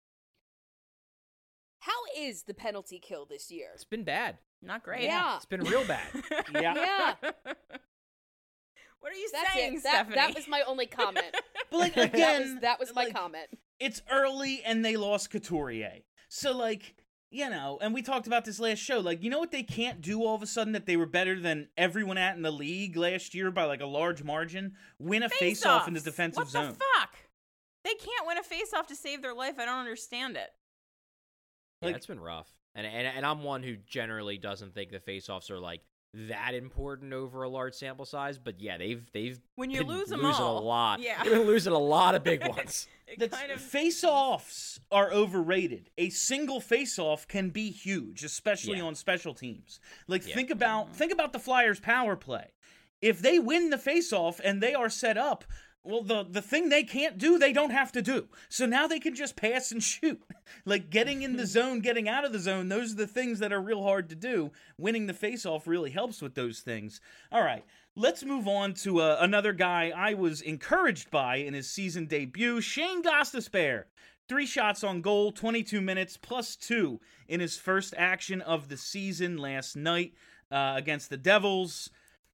How is the penalty kill this year? It's been bad. Not great. Yeah. It's been real bad. Yeah. What are you That's saying, it. Stephanie? That was my only comment. But, like, again, that was my like, comment. it's early and they lost Couturier. So, like, you know, and we talked about this last show, like, you know what they can't do all of a sudden that they were better than everyone at in the league last year by like a large margin? Win a face-off in the defensive zone. What the fuck? They can't win a face-off to save their life. I don't understand it. Yeah, Like- it's been rough. And I'm one who generally doesn't think the face-offs are like that important over a large sample size, but yeah, they've When you been lose them losing all, a lot. yeah. They've been losing a lot of big ones. It kind of Face-offs are overrated. A single face-off can be huge, especially Yeah. on special teams. Like, Yeah. think about the Flyers' power play. If they win the face-off and they are set up, well, the thing they can't do, they don't have to do. So now they can just pass and shoot. Like, getting in the zone, getting out of the zone, those are the things that are real hard to do. Winning the face-off really helps with those things. All right, let's move on to another guy I was encouraged by in his season debut, Shane Gostisbehere. 3 shots on goal, 22 minutes, +2 in his first action of the season last night against the Devils.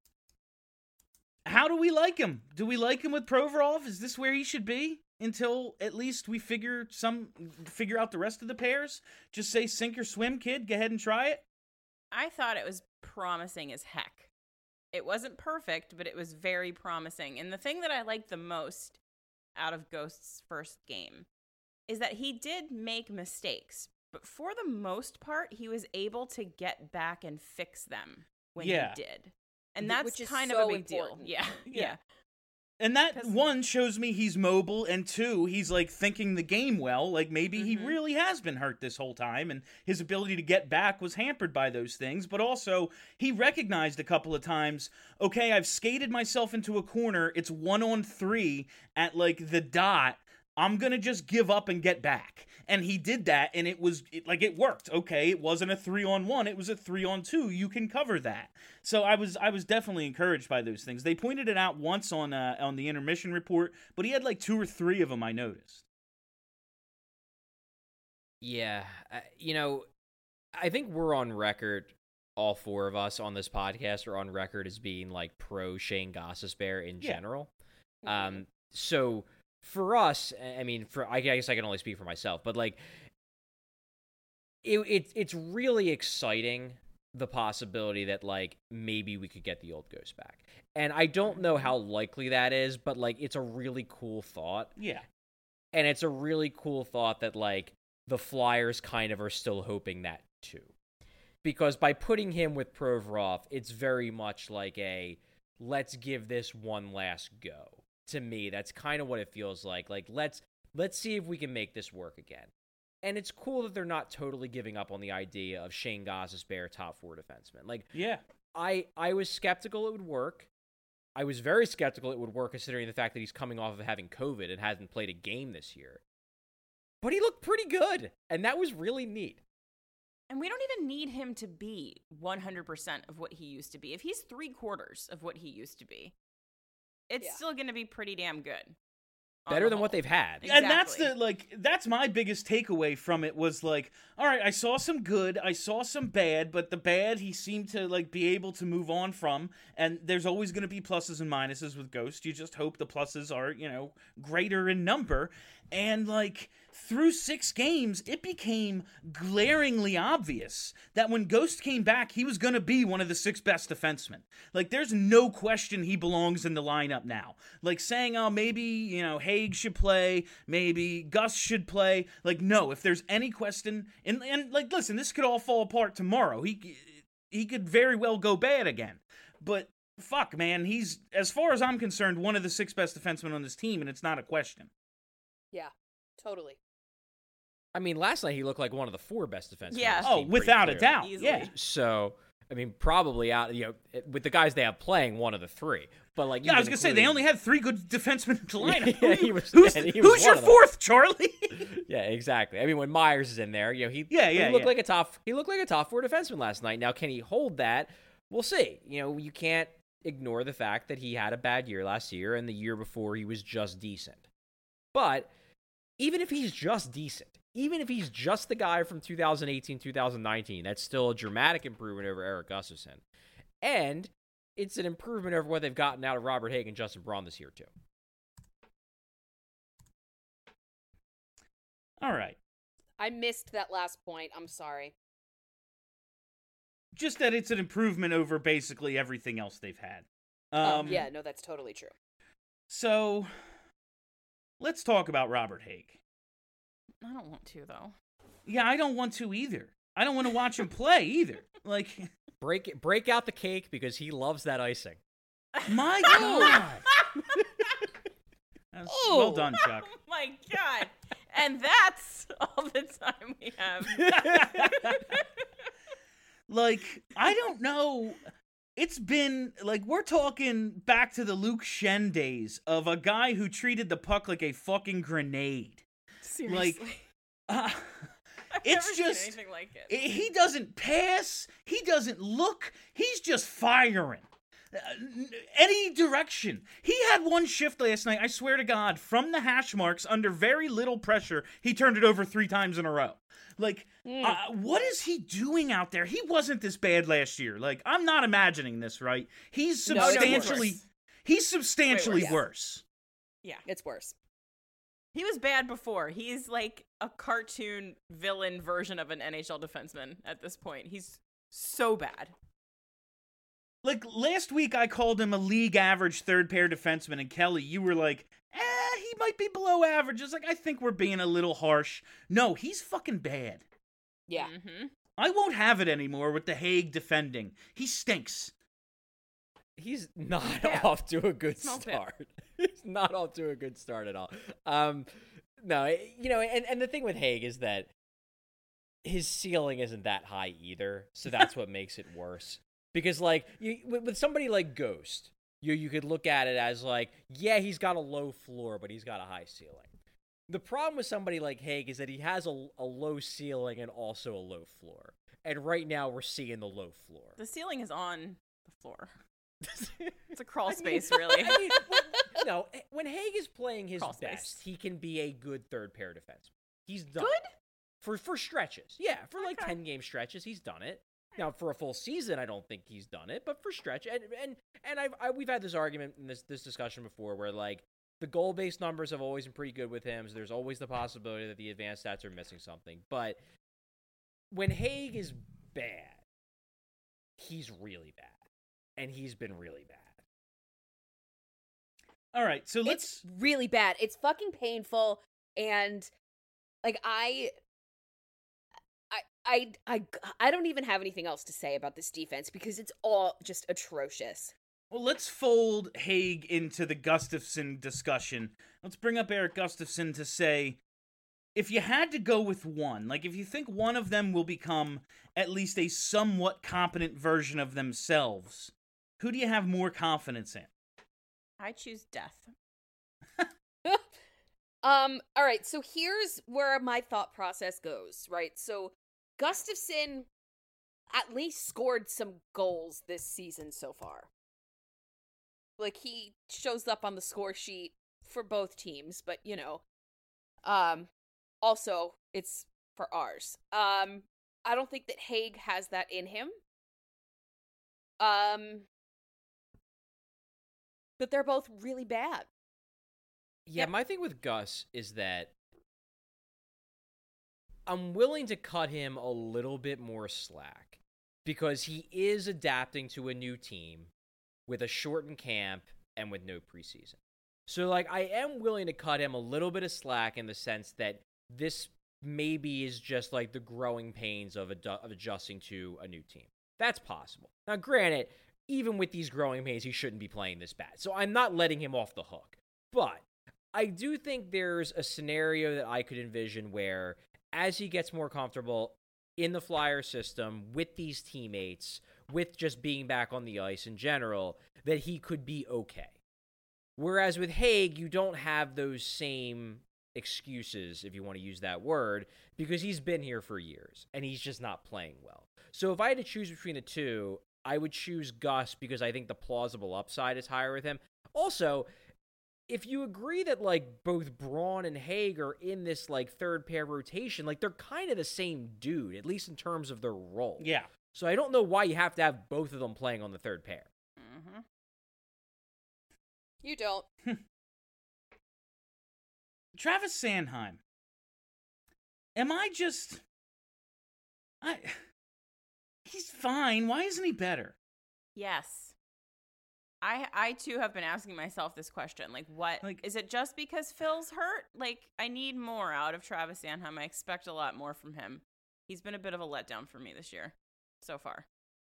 How do we like him? Do we like him with Provorov? Is this where he should be until at least we figure out the rest of the pairs? Just say sink or swim, kid. Go ahead and try it. I thought it was promising as heck. It wasn't perfect, but it was very promising. And the thing that I liked the most out of Ghost's first game is that he did make mistakes, but for the most part, he was able to get back and fix them when he did. And that's Which is kind so of a big important. deal. Yeah. And that, 'Cause- one, shows me he's mobile, and two, he's, like, thinking the game well. Like, maybe he really has been hurt this whole time, and his ability to get back was hampered by those things. But also, he recognized a couple of times, okay, I've skated myself into a corner. It's 1-on-3 at, like, the dot. I'm going to just give up and get back. And he did that, and it worked. Okay, it wasn't a 3-on-1, it was a 3-on-2. You can cover that. So I was definitely encouraged by those things. They pointed it out once on the intermission report, but he had like 2 or 3 of them I noticed. Yeah, I think we're on record, all 4 of us on this podcast are on record as being like pro Shane Gostisbehere in general. So for us, I mean, I guess I can only speak for myself, but like, it's really exciting, the possibility that like maybe we could get the old Ghost back, and I don't know how likely that is, but like it's a really cool thought. Yeah, and it's a really cool thought that like the Flyers kind of are still hoping that too, because by putting him with Provorov, it's very much like a let's give this one last go. To me, that's kind of what it feels like. Like, let's see if we can make this work again. And it's cool that they're not totally giving up on the idea of Shane Gostisbehere top 4 defenseman. Like, yeah. I was skeptical it would work. I was very skeptical it would work considering the fact that he's coming off of having COVID and hasn't played a game this year. But he looked pretty good, and that was really neat. And we don't even need him to be 100% of what he used to be. If he's 3/4 of what he used to be, it's still going to be pretty damn good. Better than what they've had. Exactly. And that's my biggest takeaway from it was like, all right, I saw some good, I saw some bad, but the bad he seemed to like be able to move on from, and there's always going to be pluses and minuses with Ghost. You just hope the pluses are, greater in number. And like through 6 games, it became glaringly obvious that when Ghost came back, he was going to be one of the 6 best defensemen. Like there's no question he belongs in the lineup now. Like saying, oh, maybe, Haig should play, maybe Gus should play. Like, no, if there's any question, and like, listen, this could all fall apart tomorrow. He could very well go bad again. But fuck, man, he's, as far as I'm concerned, one of the 6 best defensemen on this team, and it's not a question. Yeah, totally. I mean, last night he looked like one of the 4 best defensemen. Yeah. on this Oh, team, without pretty a clearly. doubt. Easily. Yeah. So, I mean, probably out, with the guys they have playing, one of the 3. But like, Yeah, I was even going to say, they including- only had 3 good defensemen in the lineup. Yeah, he was who's one who's your of them. 4th, Charlie? Yeah, exactly. I mean, when Myers is in there, he Yeah, looked yeah. like a top 4 defenseman last night. Now, can he hold that? We'll see. You can't ignore the fact that he had a bad year last year, and the year before he was just decent. But even if he's just decent, even if he's just the guy from 2018, 2019, that's still a dramatic improvement over Erik Gustafsson. And it's an improvement over what they've gotten out of Robert Haig and Justin Braun this year, too. All right. I missed that last point. I'm sorry. Just that it's an improvement over basically everything else they've had. Yeah, no, that's totally true. So, let's talk about Robert Haig. I don't want to, though. Yeah, I don't want to either. I don't want to watch him play either. Like, break out the cake because he loves that icing. my God. Well done, Chuck. Oh my God. And that's all the time we have. Like, I don't know. It's been, like, we're talking back to the Luke Shen days of a guy who treated the puck like a fucking grenade. Seriously. Like, I've it's never just, seen anything like it. he doesn't pass, he doesn't look, he's just firing. Any direction. He had one shift last night, I swear to God, from the hash marks under very little pressure, he turned it over 3 times in a row. Like, what is he doing out there? He wasn't this bad last year. Like, I'm not imagining this, right? He's substantially, worse. Yeah. It's worse. He was bad before. He's like a cartoon villain version of an NHL defenseman at this point. He's so bad. Like, last week I called him a league average third pair defenseman, and Kelly, you were like, he might be below average. It's like, I think we're being a little harsh. No, he's fucking bad. Yeah. Mm-hmm. I won't have it anymore with the Haig defending. He stinks. He's not off to a good Smells start. He's not off to a good start at all. No, and the thing with Haig is that his ceiling isn't that high either, so that's what makes it worse. Because, like, with somebody like Ghost, you could look at it as, like, yeah, he's got a low floor, but he's got a high ceiling. The problem with somebody like Haig is that he has a low ceiling and also a low floor. And right now, we're seeing the low floor. The ceiling is on the floor. It's a crawl space, really. No, when Haig is playing his Crawl best, space. he can be a good third pair defenseman. He's done Good? it. For stretches. Yeah, for like Okay. 10-game stretches, he's done it. Now, for a full season, I don't think he's done it, but for stretch, and we've had this argument in this discussion before, where like the goal-based numbers have always been pretty good with him. So there's always the possibility that the advanced stats are missing something. But when Haig is bad, he's really bad, and he's been really bad. All right, so It's really bad. It's fucking painful, and like I don't even have anything else to say about this defense because it's all just atrocious. Well, let's fold Haig into the Gustafsson discussion. Let's bring up Eric Gustafsson to say, if you had to go with one, like if you think one of them will become at least a somewhat competent version of themselves, who do you have more confidence in? I choose death. All right, so here's where my thought process goes, right? So Gustafsson at least scored some goals this season so far. Like, he shows up on the score sheet for both teams, but, you know, also, it's for ours. I don't think that Haig has that in him. But they're both really bad. Yeah, my thing with Gus is that I'm willing to cut him a little bit more slack because he is adapting to a new team with a shortened camp and with no preseason. So, like, I am willing to cut him a little bit of slack in the sense that this maybe is just like the growing pains of adjusting to a new team. That's possible. Now, granted, even with these growing pains, he shouldn't be playing this bad. So I'm not letting him off the hook. But I do think there's a scenario that I could envision where as he gets more comfortable in the Flyer system with these teammates, with just being back on the ice in general, that he could be okay. Whereas with Haig, you don't have those same excuses, if you want to use that word, because he's been here for years and he's just not playing well. So if I had to choose between the two, I would choose Gus because I think the plausible upside is higher with him. Also, if you agree that, like, both Braun and Haig are in this, like, third pair rotation, like, they're kind of the same dude, at least in terms of their role. Yeah. So I don't know why you have to have both of them playing on the third pair. Mm-hmm. You don't. Travis Sanheim. am I just... He's fine. Why isn't he better? Yes. I too have been asking myself this question. Like, what? Like- Is it just because Phil's hurt? Like, I need more out of Travis Sanheim. I expect a lot more from him. He's been a bit of a letdown for me this year so far.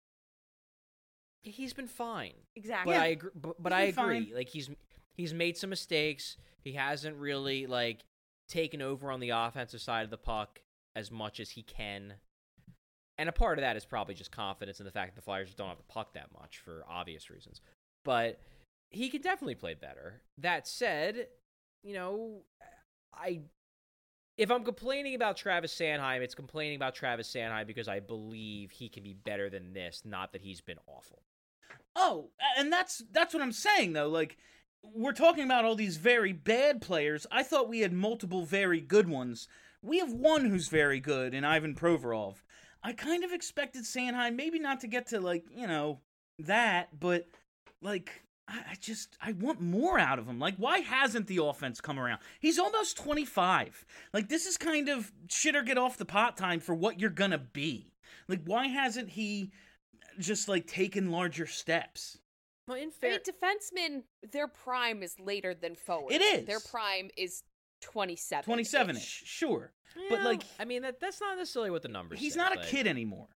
He's been fine. Exactly. But I agree. But I He's been agree. fine. Like he's made some mistakes. He hasn't really like taken over on the offensive side of the puck as much as he can. And a part of that is probably just confidence in the fact that the Flyers don't have the puck that much for obvious reasons. But he could definitely play better. That said, you know, if I'm complaining about Travis Sanheim, it's complaining about Travis Sanheim because I believe he can be better than this, not that he's been awful. Oh, and that's what I'm saying, though. Like, we're talking about all these very bad players. I thought we had multiple very good ones. We have one who's very good in Ivan Provorov. I kind of expected Sanheim maybe not to get to, like, you know, that, but, like, I want more out of him. Like, why hasn't the offense come around? He's almost 25. Like, this is kind of shit or get off the pot time for what you're gonna be. Like, why hasn't he just, like, taken larger steps? Well, in I fair, mean, defensemen, their prime is later than forwards. It is. Their prime is 27. 27-ish, sure. But, like, I mean, that's not necessarily what the numbers he's say, not a but- kid anymore.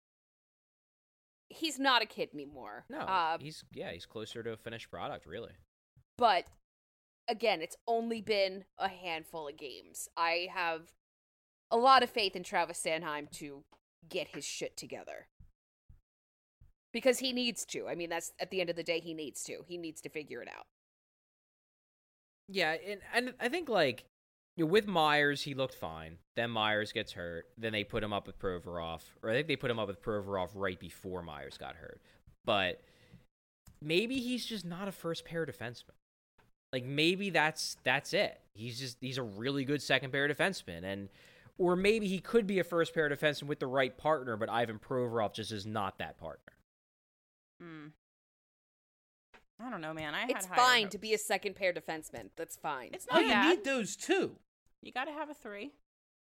He's not a kid anymore. No, he's closer to a finished product, really. But again, it's only been a handful of games. I have a lot of faith in Travis Sanheim to get his shit together. Because he needs to. I mean, that's at the end of the day, he needs to. He needs to figure it out. Yeah, and I think, like, you know, with Myers, he looked fine. Then Myers gets hurt. Then they put him up with Provorov. Or I think they put him up with Provorov right before Myers got hurt. But maybe he's just not a first-pair defenseman. Like, maybe that's it. He's a really good second-pair defenseman. Or maybe he could be a first-pair defenseman with the right partner, but Ivan Provorov just is not that partner. I don't know, man. It's fine to be a second pair defenseman. That's fine. It's Oh, not you bad. need those too. You got to have a 3.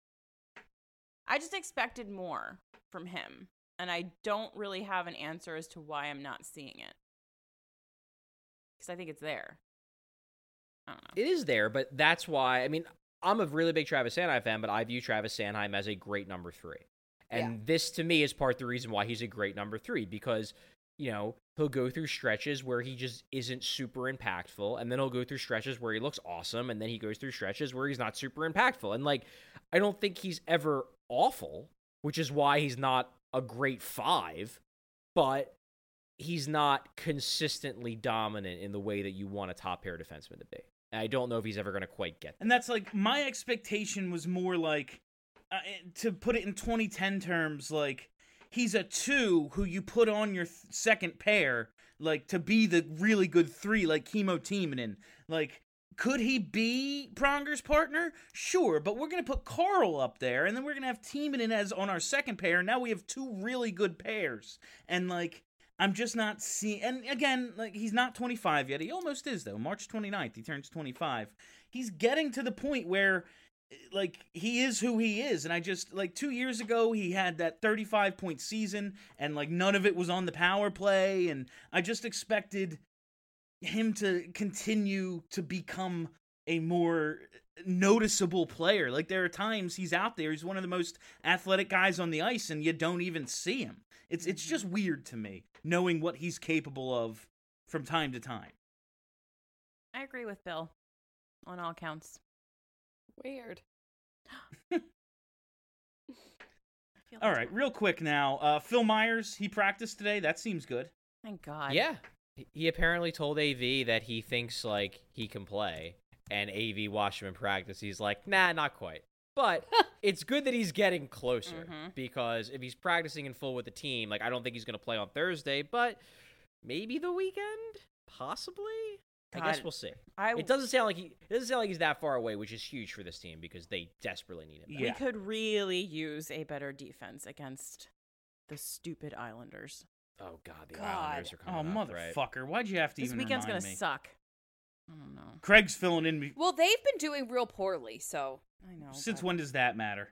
I just expected more from him, and I don't really have an answer as to why I'm not seeing it. Because I think it's there. I don't know. It is there, but that's why, I mean, I'm a really big Travis Sanheim fan, but I view Travis Sanheim as a great number 3. And this, to me, is part of the reason why he's a great number 3, because, you know, he'll go through stretches where he just isn't super impactful, and then he'll go through stretches where he looks awesome, and then he goes through stretches where he's not super impactful. And, like, I don't think he's ever awful, which is why he's not a great 5, but he's not consistently dominant in the way that you want a top-pair defenseman to be. And I don't know if he's ever going to quite get there. And that's like, my expectation was more like, to put it in 2010 terms, like, he's a 2 who you put on your second pair, like, to be the really good 3, like Kimmo Timonen. Like, could he be Pronger's partner? Sure, but we're going to put Carl up there, and then we're going to have Timonen as on our second pair, and now we have 2 really good pairs. And, like, I'm just not seeing... And, again, like, he's not 25 yet. He almost is, though. March 29th, he turns 25. He's getting to the point where... like, he is who he is, and I just, like, 2 years ago, he had that 35-point season, and, like, none of it was on the power play, and I just expected him to continue to become a more noticeable player. Like, there are times he's out there, he's one of the most athletic guys on the ice, and you don't even see him. It's just weird to me, knowing what he's capable of from time to time. I agree with Bill on all counts. Weird. All right, real quick now. Phil Myers, he practiced today. That seems good. Thank God. Yeah. He apparently told AV that he thinks, like, he can play, and AV watched him in practice. He's like, nah, not quite. But it's good that he's getting closer, because if he's practicing in full with the team, like, I don't think he's going to play on Thursday, but maybe the weekend? Possibly? I guess God, we'll see. it doesn't sound like he's that far away, which is huge for this team because they desperately need him. Yeah. We could really use a better defense against the stupid Islanders. Oh God, the God. Islanders are Oh, coming up, right? motherfucker. Why'd you have to This even weekend's remind gonna me? suck. I don't know. Craig's filling in. Well, they've been doing real poorly, so I know. Since but when does that matter?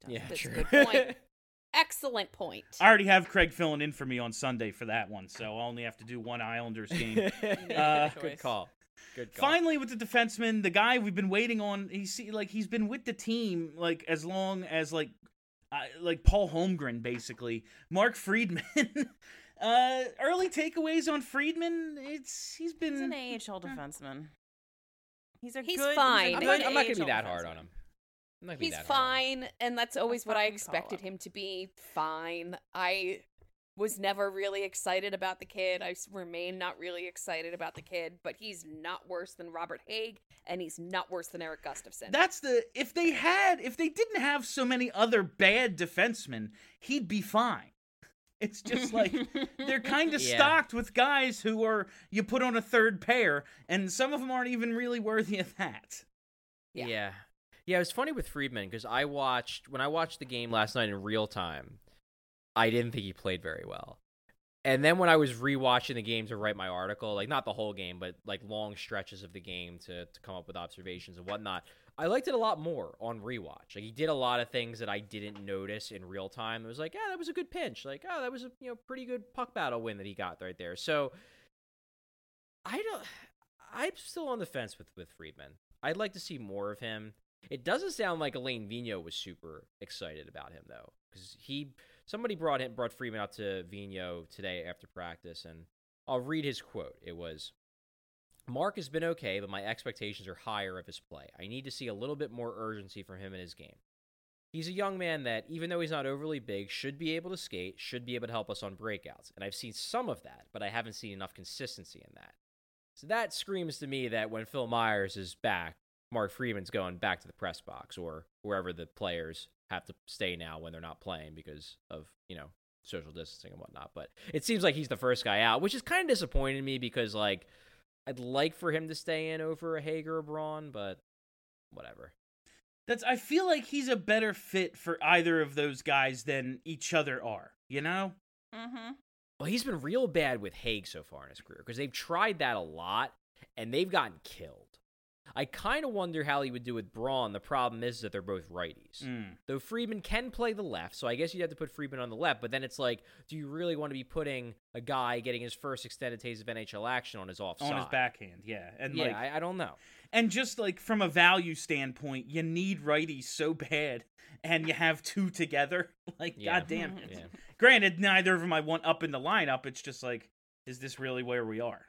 doesn't. Yeah, That's true. a good point. Excellent point. I already have Craig filling in for me on Sunday for that one, so I'll only have to do one Islanders game. Good call. Good call. Finally, with the defenseman, the guy we've been waiting on, he's been with the team like as long as like Paul Holmgren, basically. Mark Friedman. Early takeaways on Friedman. He's been He's an AHL defenseman. He's He's good, fine. He's a I'm good not gonna be AHL that hard on defenseman. him. I'm not gonna be He's that hard on him. fine, and that's always A what I fucking expected call-up. him to be. Fine. I was never really excited about the kid. Remain not really excited about the kid, but he's not worse than Robert Haig, and he's not worse than Eric Gustafson. That's if they didn't have so many other bad defensemen, he'd be fine. It's just like they're kind of Yeah. stocked with guys who are you put on a third pair, and some of them aren't even really worthy of that. Yeah. Yeah, it was funny with Friedman because when I watched the game last night in real time, I didn't think he played very well. And then when I was rewatching the game to write my article, like not the whole game, but like long stretches of the game to come up with observations and whatnot, I liked it a lot more on rewatch. Like he did a lot of things that I didn't notice in real time. It was like, yeah, that was a good pinch. Like, oh, that was a pretty good puck battle win that he got right there. So I'm still on the fence with Friedman. I'd like to see more of him. It doesn't sound like Alain Vigneault was super excited about him though, because somebody brought Friedman out to Vigneault today after practice, and I'll read his quote. It was, "Mark has been okay, but my expectations are higher of his play. I need to see a little bit more urgency from him in his game. He's a young man that, even though he's not overly big, should be able to skate, should be able to help us on breakouts. And I've seen some of that, but I haven't seen enough consistency in that." So that screams to me that when Phil Myers is back, Mark Friedman's going back to the press box or wherever the players have to stay now when they're not playing because of, social distancing and whatnot. But it seems like he's the first guy out, which is kind of disappointing to me because, like, I'd like for him to stay in over a Hager or Braun, but whatever. I feel like he's a better fit for either of those guys than each other are, Mm-hmm. Well, he's been real bad with Haig so far in his career because they've tried that a lot, and they've gotten killed. I kind of wonder how he would do with Braun. The problem is that they're both righties. Though Friedman can play the left, so I guess you'd have to put Friedman on the left, but then it's like, do you really want to be putting a guy getting his first extended taste of NHL action on his offside? On his backhand, yeah. And yeah, I don't know. And just like from a value standpoint, you need righties so bad, and you have two together. Like, Yeah. goddamn. Yeah. Granted, neither of them I want up in the lineup. It's just like, is this really where we are?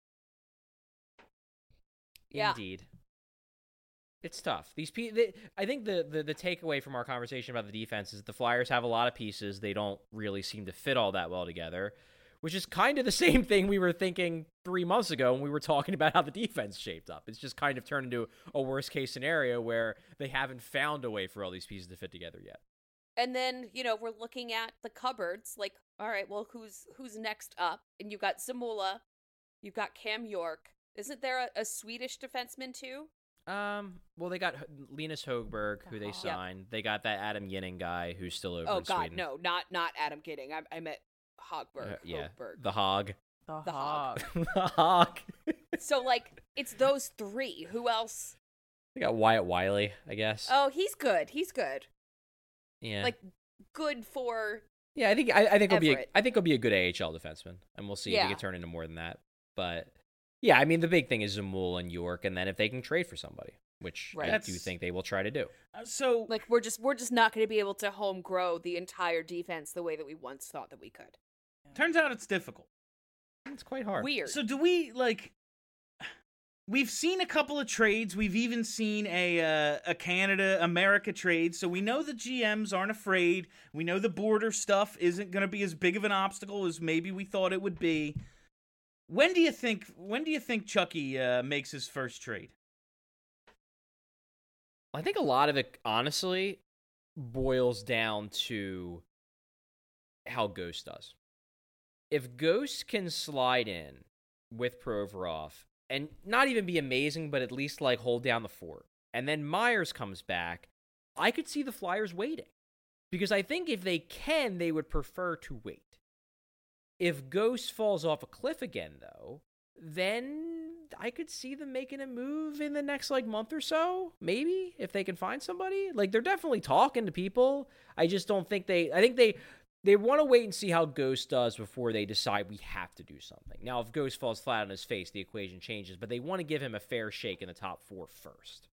Yeah. Indeed. It's tough. I think the takeaway from our conversation about the defense is that the Flyers have a lot of pieces. They don't really seem to fit all that well together, which is kind of the same thing we were thinking 3 months ago when we were talking about how the defense shaped up. It's just kind of turned into a worst case scenario where they haven't found a way for all these pieces to fit together yet. And then, we're looking at the cupboards, like, all right, well, who's next up? And you've got Zamula, you've got Cam York. Isn't there a Swedish defenseman too? Well, they got Linus Högberg, who they signed. They got that Adam Ginning guy who's still over in Sweden. No, not Adam Gidding. I meant Hogberg. Yeah, Högberg. the Hog. The Hog. The Hog. So, like, it's those three. Who else? They got Wyatt Wiley, I guess. Oh, he's good. Yeah. Like, good for... Yeah, I think Everett. he'll be a good AHL defenseman, and we'll see if he Yeah. can turn into more than that. But yeah, I mean the big thing is Zamul and York, and then if they can trade for somebody, which Right. I do think they will try to do. So, Like, we're just not going to be able to home grow the entire defense the way that we once thought that we could. turns out it's difficult. It's quite hard. Weird. So do we, like... We've seen a couple of trades. We've even seen a Canada-America trade. So we know the GMs aren't afraid. We know the border stuff isn't going to be as big of an obstacle as maybe we thought it would be. When do you think Chucky makes his first trade? I think a lot of it, honestly, boils down to how Ghost does. If Ghost can slide in with Provorov and not even be amazing, but at least like hold down the fort, and then Myers comes back, I could see the Flyers waiting. Because I think if they can, they would prefer to wait. If Ghost falls off a cliff again, though, then could see them making a move in the next like month or so, maybe, if they can find somebody. Like, they're definitely talking to people. I just don't think I think they want to wait and see how Ghost does before they decide we have to do something. Now, if Ghost falls flat on his face, the equation changes, but they want to give him a fair shake in the top 4 first.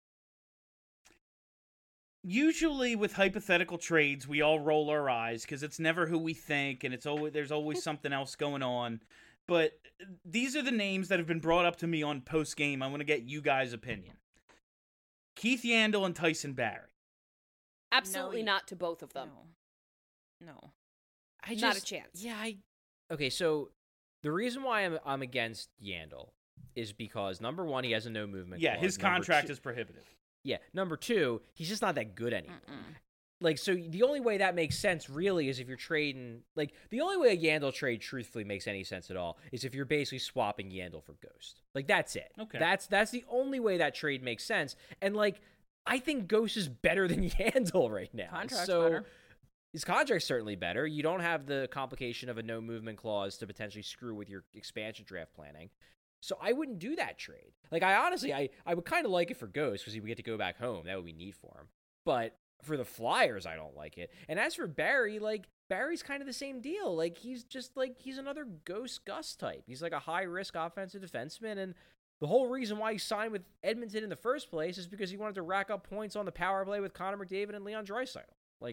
Usually with hypothetical trades, we all roll our eyes because it's never who we think, and there's always something else going on. But these are the names that have been brought up to me on post game. I want to get you guys' opinion. Keith Yandle and Tyson Barrie. Absolutely not to both of them. No. Not a chance. Yeah, okay, so the reason why I'm against Yandle is because, number one, he has a no movement clause. His contract is prohibitive. Yeah, number two, he's just not that good anymore. Like, so the only way that makes sense, really, is if you're trading... Like, the only way a Yandle trade, truthfully, makes any sense at all is if you're basically swapping Yandle for Ghost. Like, that's it. Okay. That's the only way that trade makes sense. And, like, I think Ghost is better than Yandle right now. Contract's better. His contract's certainly better. You don't have the complication of a no-movement clause to potentially screw with your expansion draft planning. So I wouldn't do that trade. Like, I honestly, I would kind of like it for Ghost because he would get to go back home. That would be neat for him. But for the Flyers, I don't like it. And as for Barrie, like, Barry's kind of the same deal. Like, he's just, like, he's another Ghost Gus type. He's, like, a high-risk offensive defenseman, and the whole reason why he signed with Edmonton in the first place is because he wanted to rack up points on the power play with Connor McDavid and Leon Draisaitl. Like,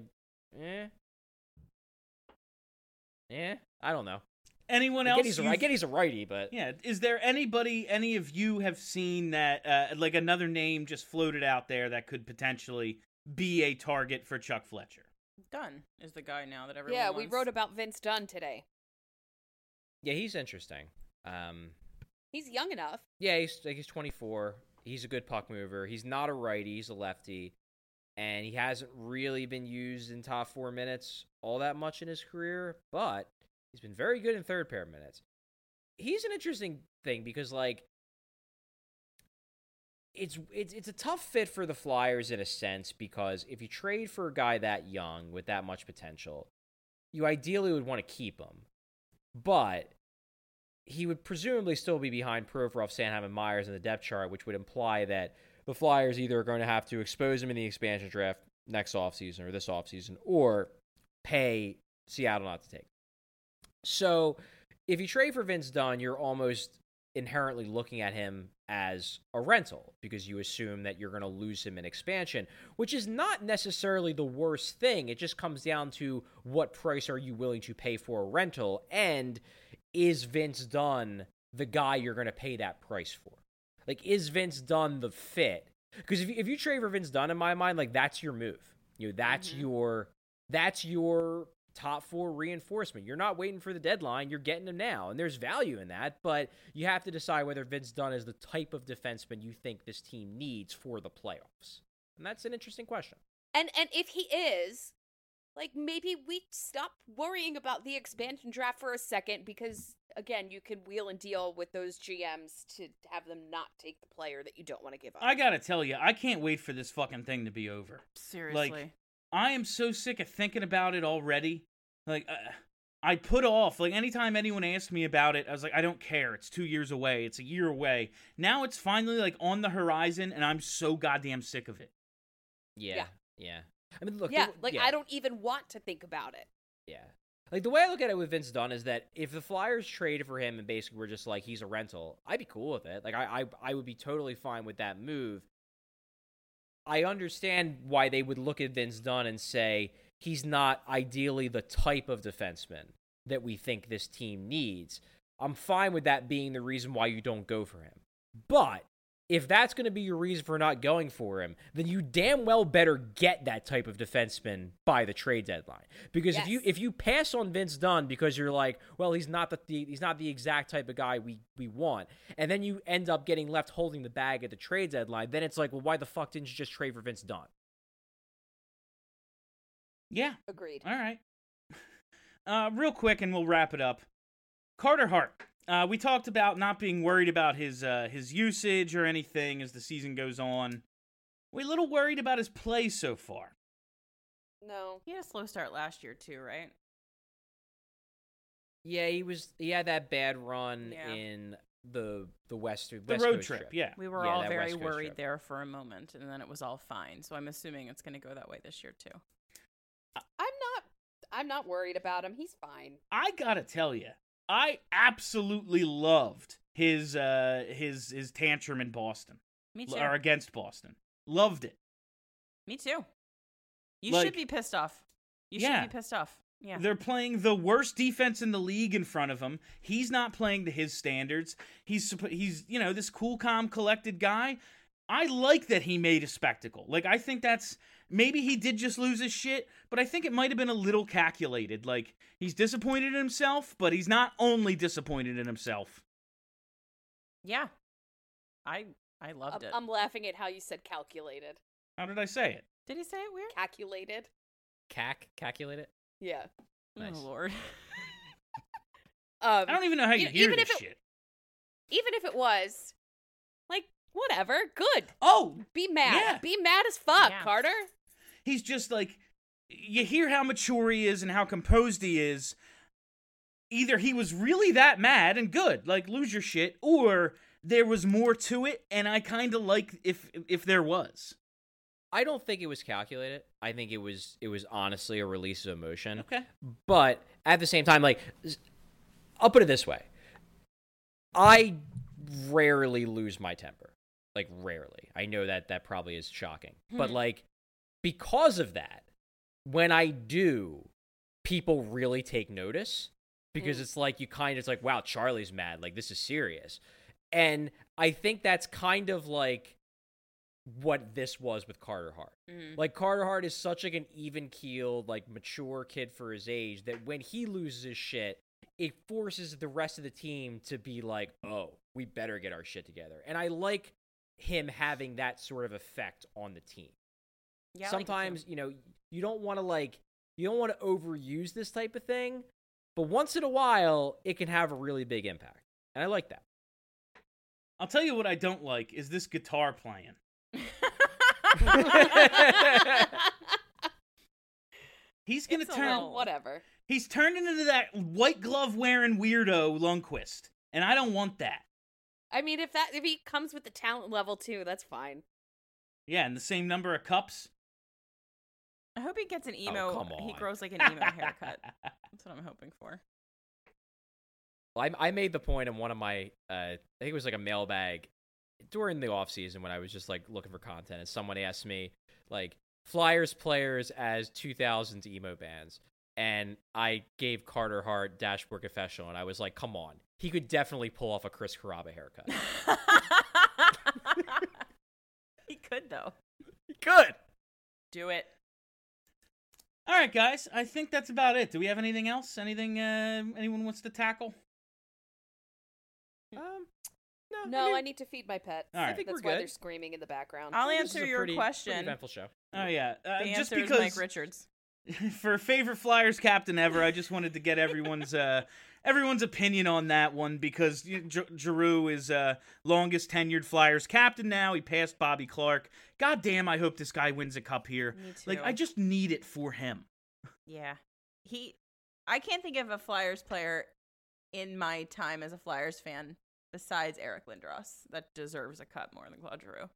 I don't know. Anyone else? I get he's a righty, but... Yeah, is there anybody, any of you have seen that, like, another name just floated out there that could potentially be a target for Chuck Fletcher? Dunn is the guy now that everyone Yeah, wants. we wrote about Vince Dunn today. Yeah, he's interesting. He's young enough. Yeah, he's 24. He's a good puck mover. He's not a righty. He's a lefty. And he hasn't really been used in top 4 minutes all that much in his career, but he's been very good in third pair minutes. He's an interesting thing because, like, it's a tough fit for the Flyers in a sense because if you trade for a guy that young with that much potential, you ideally would want to keep him. But he would presumably still be behind Provorov, Sanheim, and Myers in the depth chart, which would imply that the Flyers either are going to have to expose him in the expansion draft next offseason or this offseason or pay Seattle not to take him. So if you trade for Vince Dunn, you're almost inherently looking at him as a rental because you assume that you're going to lose him in expansion, which is not necessarily the worst thing. It just comes down to what price are you willing to pay for a rental, and is Vince Dunn the guy you're going to pay that price for? Like, is Vince Dunn the fit? Because if you trade for Vince Dunn, in my mind, like, that's your move. You know, that's your top 4 reinforcement. You're not waiting for the deadline. You're getting him now, and there's value in that. But you have to decide whether Vince Dunn is the type of defenseman you think this team needs for the playoffs, and that's an interesting question. And if he is, like, maybe we stop worrying about the expansion draft for a second because, again, you can wheel and deal with those GMs to have them not take the player that you don't want to give up. I gotta tell you, I can't wait for this fucking thing to be over. Seriously. Like, I am so sick of thinking about it already. Like, I put off, like, anytime anyone asked me about it, I was like, I don't care. It's 2 years away. It's a year away. Now it's finally, like, on the horizon, and I'm so goddamn sick of it. Yeah. I mean, look. I don't even want to think about it. Yeah. Like, the way I look at it with Vince Dunn is that if the Flyers traded for him and basically were just like, he's a rental, I'd be cool with it. Like, I would be totally fine with that move. I understand why they would look at Vince Dunn and say, he's not ideally the type of defenseman that we think this team needs. I'm fine with that being the reason why you don't go for him. But if that's going to be your reason for not going for him, then you damn well better get that type of defenseman by the trade deadline. Because if you pass on Vince Dunn because you're like, well, he's not the exact type of guy we want, and then you end up getting left holding the bag at the trade deadline, then it's like, well, why the fuck didn't you just trade for Vince Dunn? Yeah. Agreed. All right. Real quick, and we'll wrap it up. Carter Hart. We talked about not being worried about his usage or anything as the season goes on. We're a little worried about his play so far. No. He had a slow start last year too, right? Yeah, he had that bad run Yeah. in the West The West road Coast trip, yeah. We were Yeah, all that very West Coast worried trip. there for a moment, and then it was all fine. So I'm assuming it's going to go that way this year too. I'm not worried about him. He's fine. I gotta tell you, I absolutely loved his tantrum in Boston. Me too. Or against Boston. Loved it. Me too. You Like- should be pissed off. You Yeah. should be pissed off. Yeah. They're playing the worst defense in the league in front of him. He's not playing to his standards. He's this cool, calm, collected guy. I like that he made a spectacle. Like, I think that's, maybe he did just lose his shit, but I think it might have been a little calculated. Like, he's disappointed in himself, but he's not only disappointed in himself. Yeah. I loved it. I'm laughing at how you said calculated. How did I say it? Did he say it weird? Calculated? Calculate it. Yeah. Nice. Oh Lord. I don't even know how you hear even this if shit. Even if it was, like, whatever, good. Oh, Be mad. Yeah. Be mad as fuck, Yeah. Carter. he's just like, you hear how mature he is and how composed he is. Either he was really that mad and good, like, lose your shit, or there was more to it, and I kind of like if there was. I don't think it was calculated. I think it was honestly a release of emotion. Okay. But at the same time, like, I'll put it this way. I rarely lose my temper. Like, rarely. I know that probably is shocking. But, like, because of that, when I do, people really take notice. Because it's like, it's like, wow, Charlie's mad. Like, this is serious. And I think that's kind of like what this was with Carter Hart. Like, Carter Hart is such like an even-keeled, like, mature kid for his age that when he loses his shit, it forces the rest of the team to be like, oh, we better get our shit together. And I like him having that sort of effect on the team. Yeah. Sometimes, you don't want to overuse this type of thing, but once in a while, it can have a really big impact. And I like that. I'll tell you what I don't like is this guitar playing. He's gonna It's a turn. little whatever. He's turned into that white glove wearing weirdo Lundqvist, and I don't want that. I mean, if he comes with the talent level too, that's fine. Yeah, and the same number of cups. I hope he gets an emo. come He on. grows like an emo haircut. That's what I'm hoping for. Well, I made the point in one of my, I think it was like a mailbag during the off season when I was just like looking for content, and someone asked me like Flyers players as 2000s emo bands, and I gave Carter Hart Dashboard Confessional, and I was like, come on, he could definitely pull off a Chris Carrabba haircut. He could though. He could. Do it. All right, guys. I think that's about it. Do we have anything else? Anything anyone wants to tackle? No, I need to feed my pet. All right. I think That's we're why good. they're screaming in the background. I'll This is answer a your pretty question. eventful show. Oh yeah. The Just answer is because Mike Richards. for favorite Flyers captain ever, I just wanted to get everyone's opinion on that one because Giroux is longest tenured Flyers captain now. He passed Bobby Clark. God damn, I hope this guy wins a cup here. Me Like, too. I just need it for him. Yeah. I can't think of a Flyers player in my time as a Flyers fan besides Eric Lindros that deserves a cup more than Claude Giroux.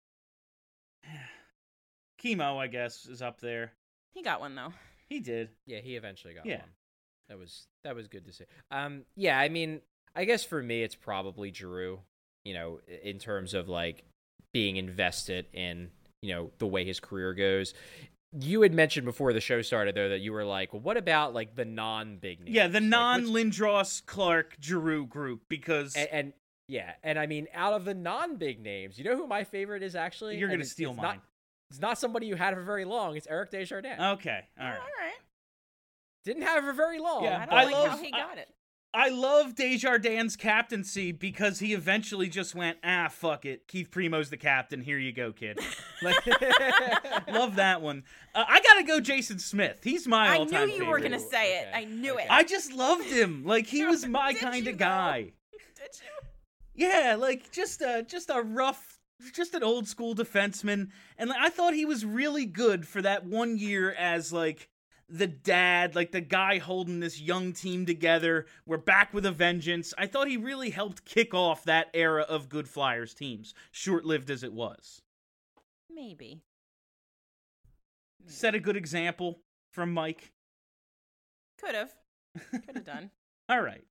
Chemo, I guess, is up there. He got one though. He did. Yeah, he eventually got Yeah. one. That was good to see. Yeah, I mean, I guess for me, it's probably Giroux. In terms of like being invested in the way his career goes. You had mentioned before the show started though that you were like, well, what about like the non-big names? Yeah, the Like, non-Lindros, Clark, Giroux group because and I mean, out of the non-big names, you know who my favorite is actually? you're And gonna steal it's mine. It's not somebody you had for very long. It's Eric Desjardins. Okay, all right. All right. Didn't have her very long. Yeah, I don't I like love- how he got it. I love Desjardins' captaincy because he eventually just went, fuck it. Keith Primo's the captain. Here you go, kid. Like, love that one. I gotta go Jason Smith. He's my I all-time knew you were favorite. gonna say it. Okay. I knew it. I just loved him. Like, he was my Did kind you, of though? guy. Did you? Yeah, like, just a rough, just an old school defenseman. And like, I thought he was really good for that 1 year as, like, the dad, like the guy holding this young team together. We're back with a vengeance. I thought he really helped kick off that era of good Flyers teams, short-lived as it was. Maybe. Set a good example from Mike. Could have done. All right.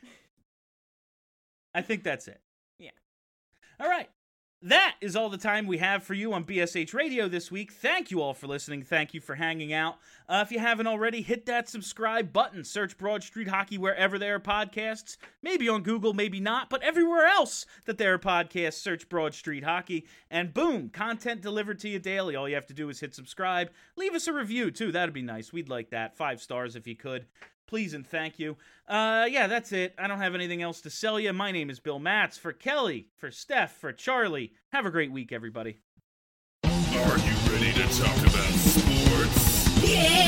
I think that's it. Yeah. All right. That is all the time we have for you on BSH Radio this week. Thank you all for listening. Thank you for hanging out. If you haven't already, hit that subscribe button. Search Broad Street Hockey wherever there are podcasts. Maybe on Google, maybe not, but everywhere else that there are podcasts, search Broad Street Hockey. And boom, content delivered to you daily. All you have to do is hit subscribe. Leave us a review, too. That'd be nice. We'd like that. 5 stars if you could. Please and thank you. Yeah, that's it. I don't have anything else to sell you. My name is Bill Matz. For Kelly, for Steph, for Charlie. Have a great week, everybody. Are you ready to talk about sports? Yeah!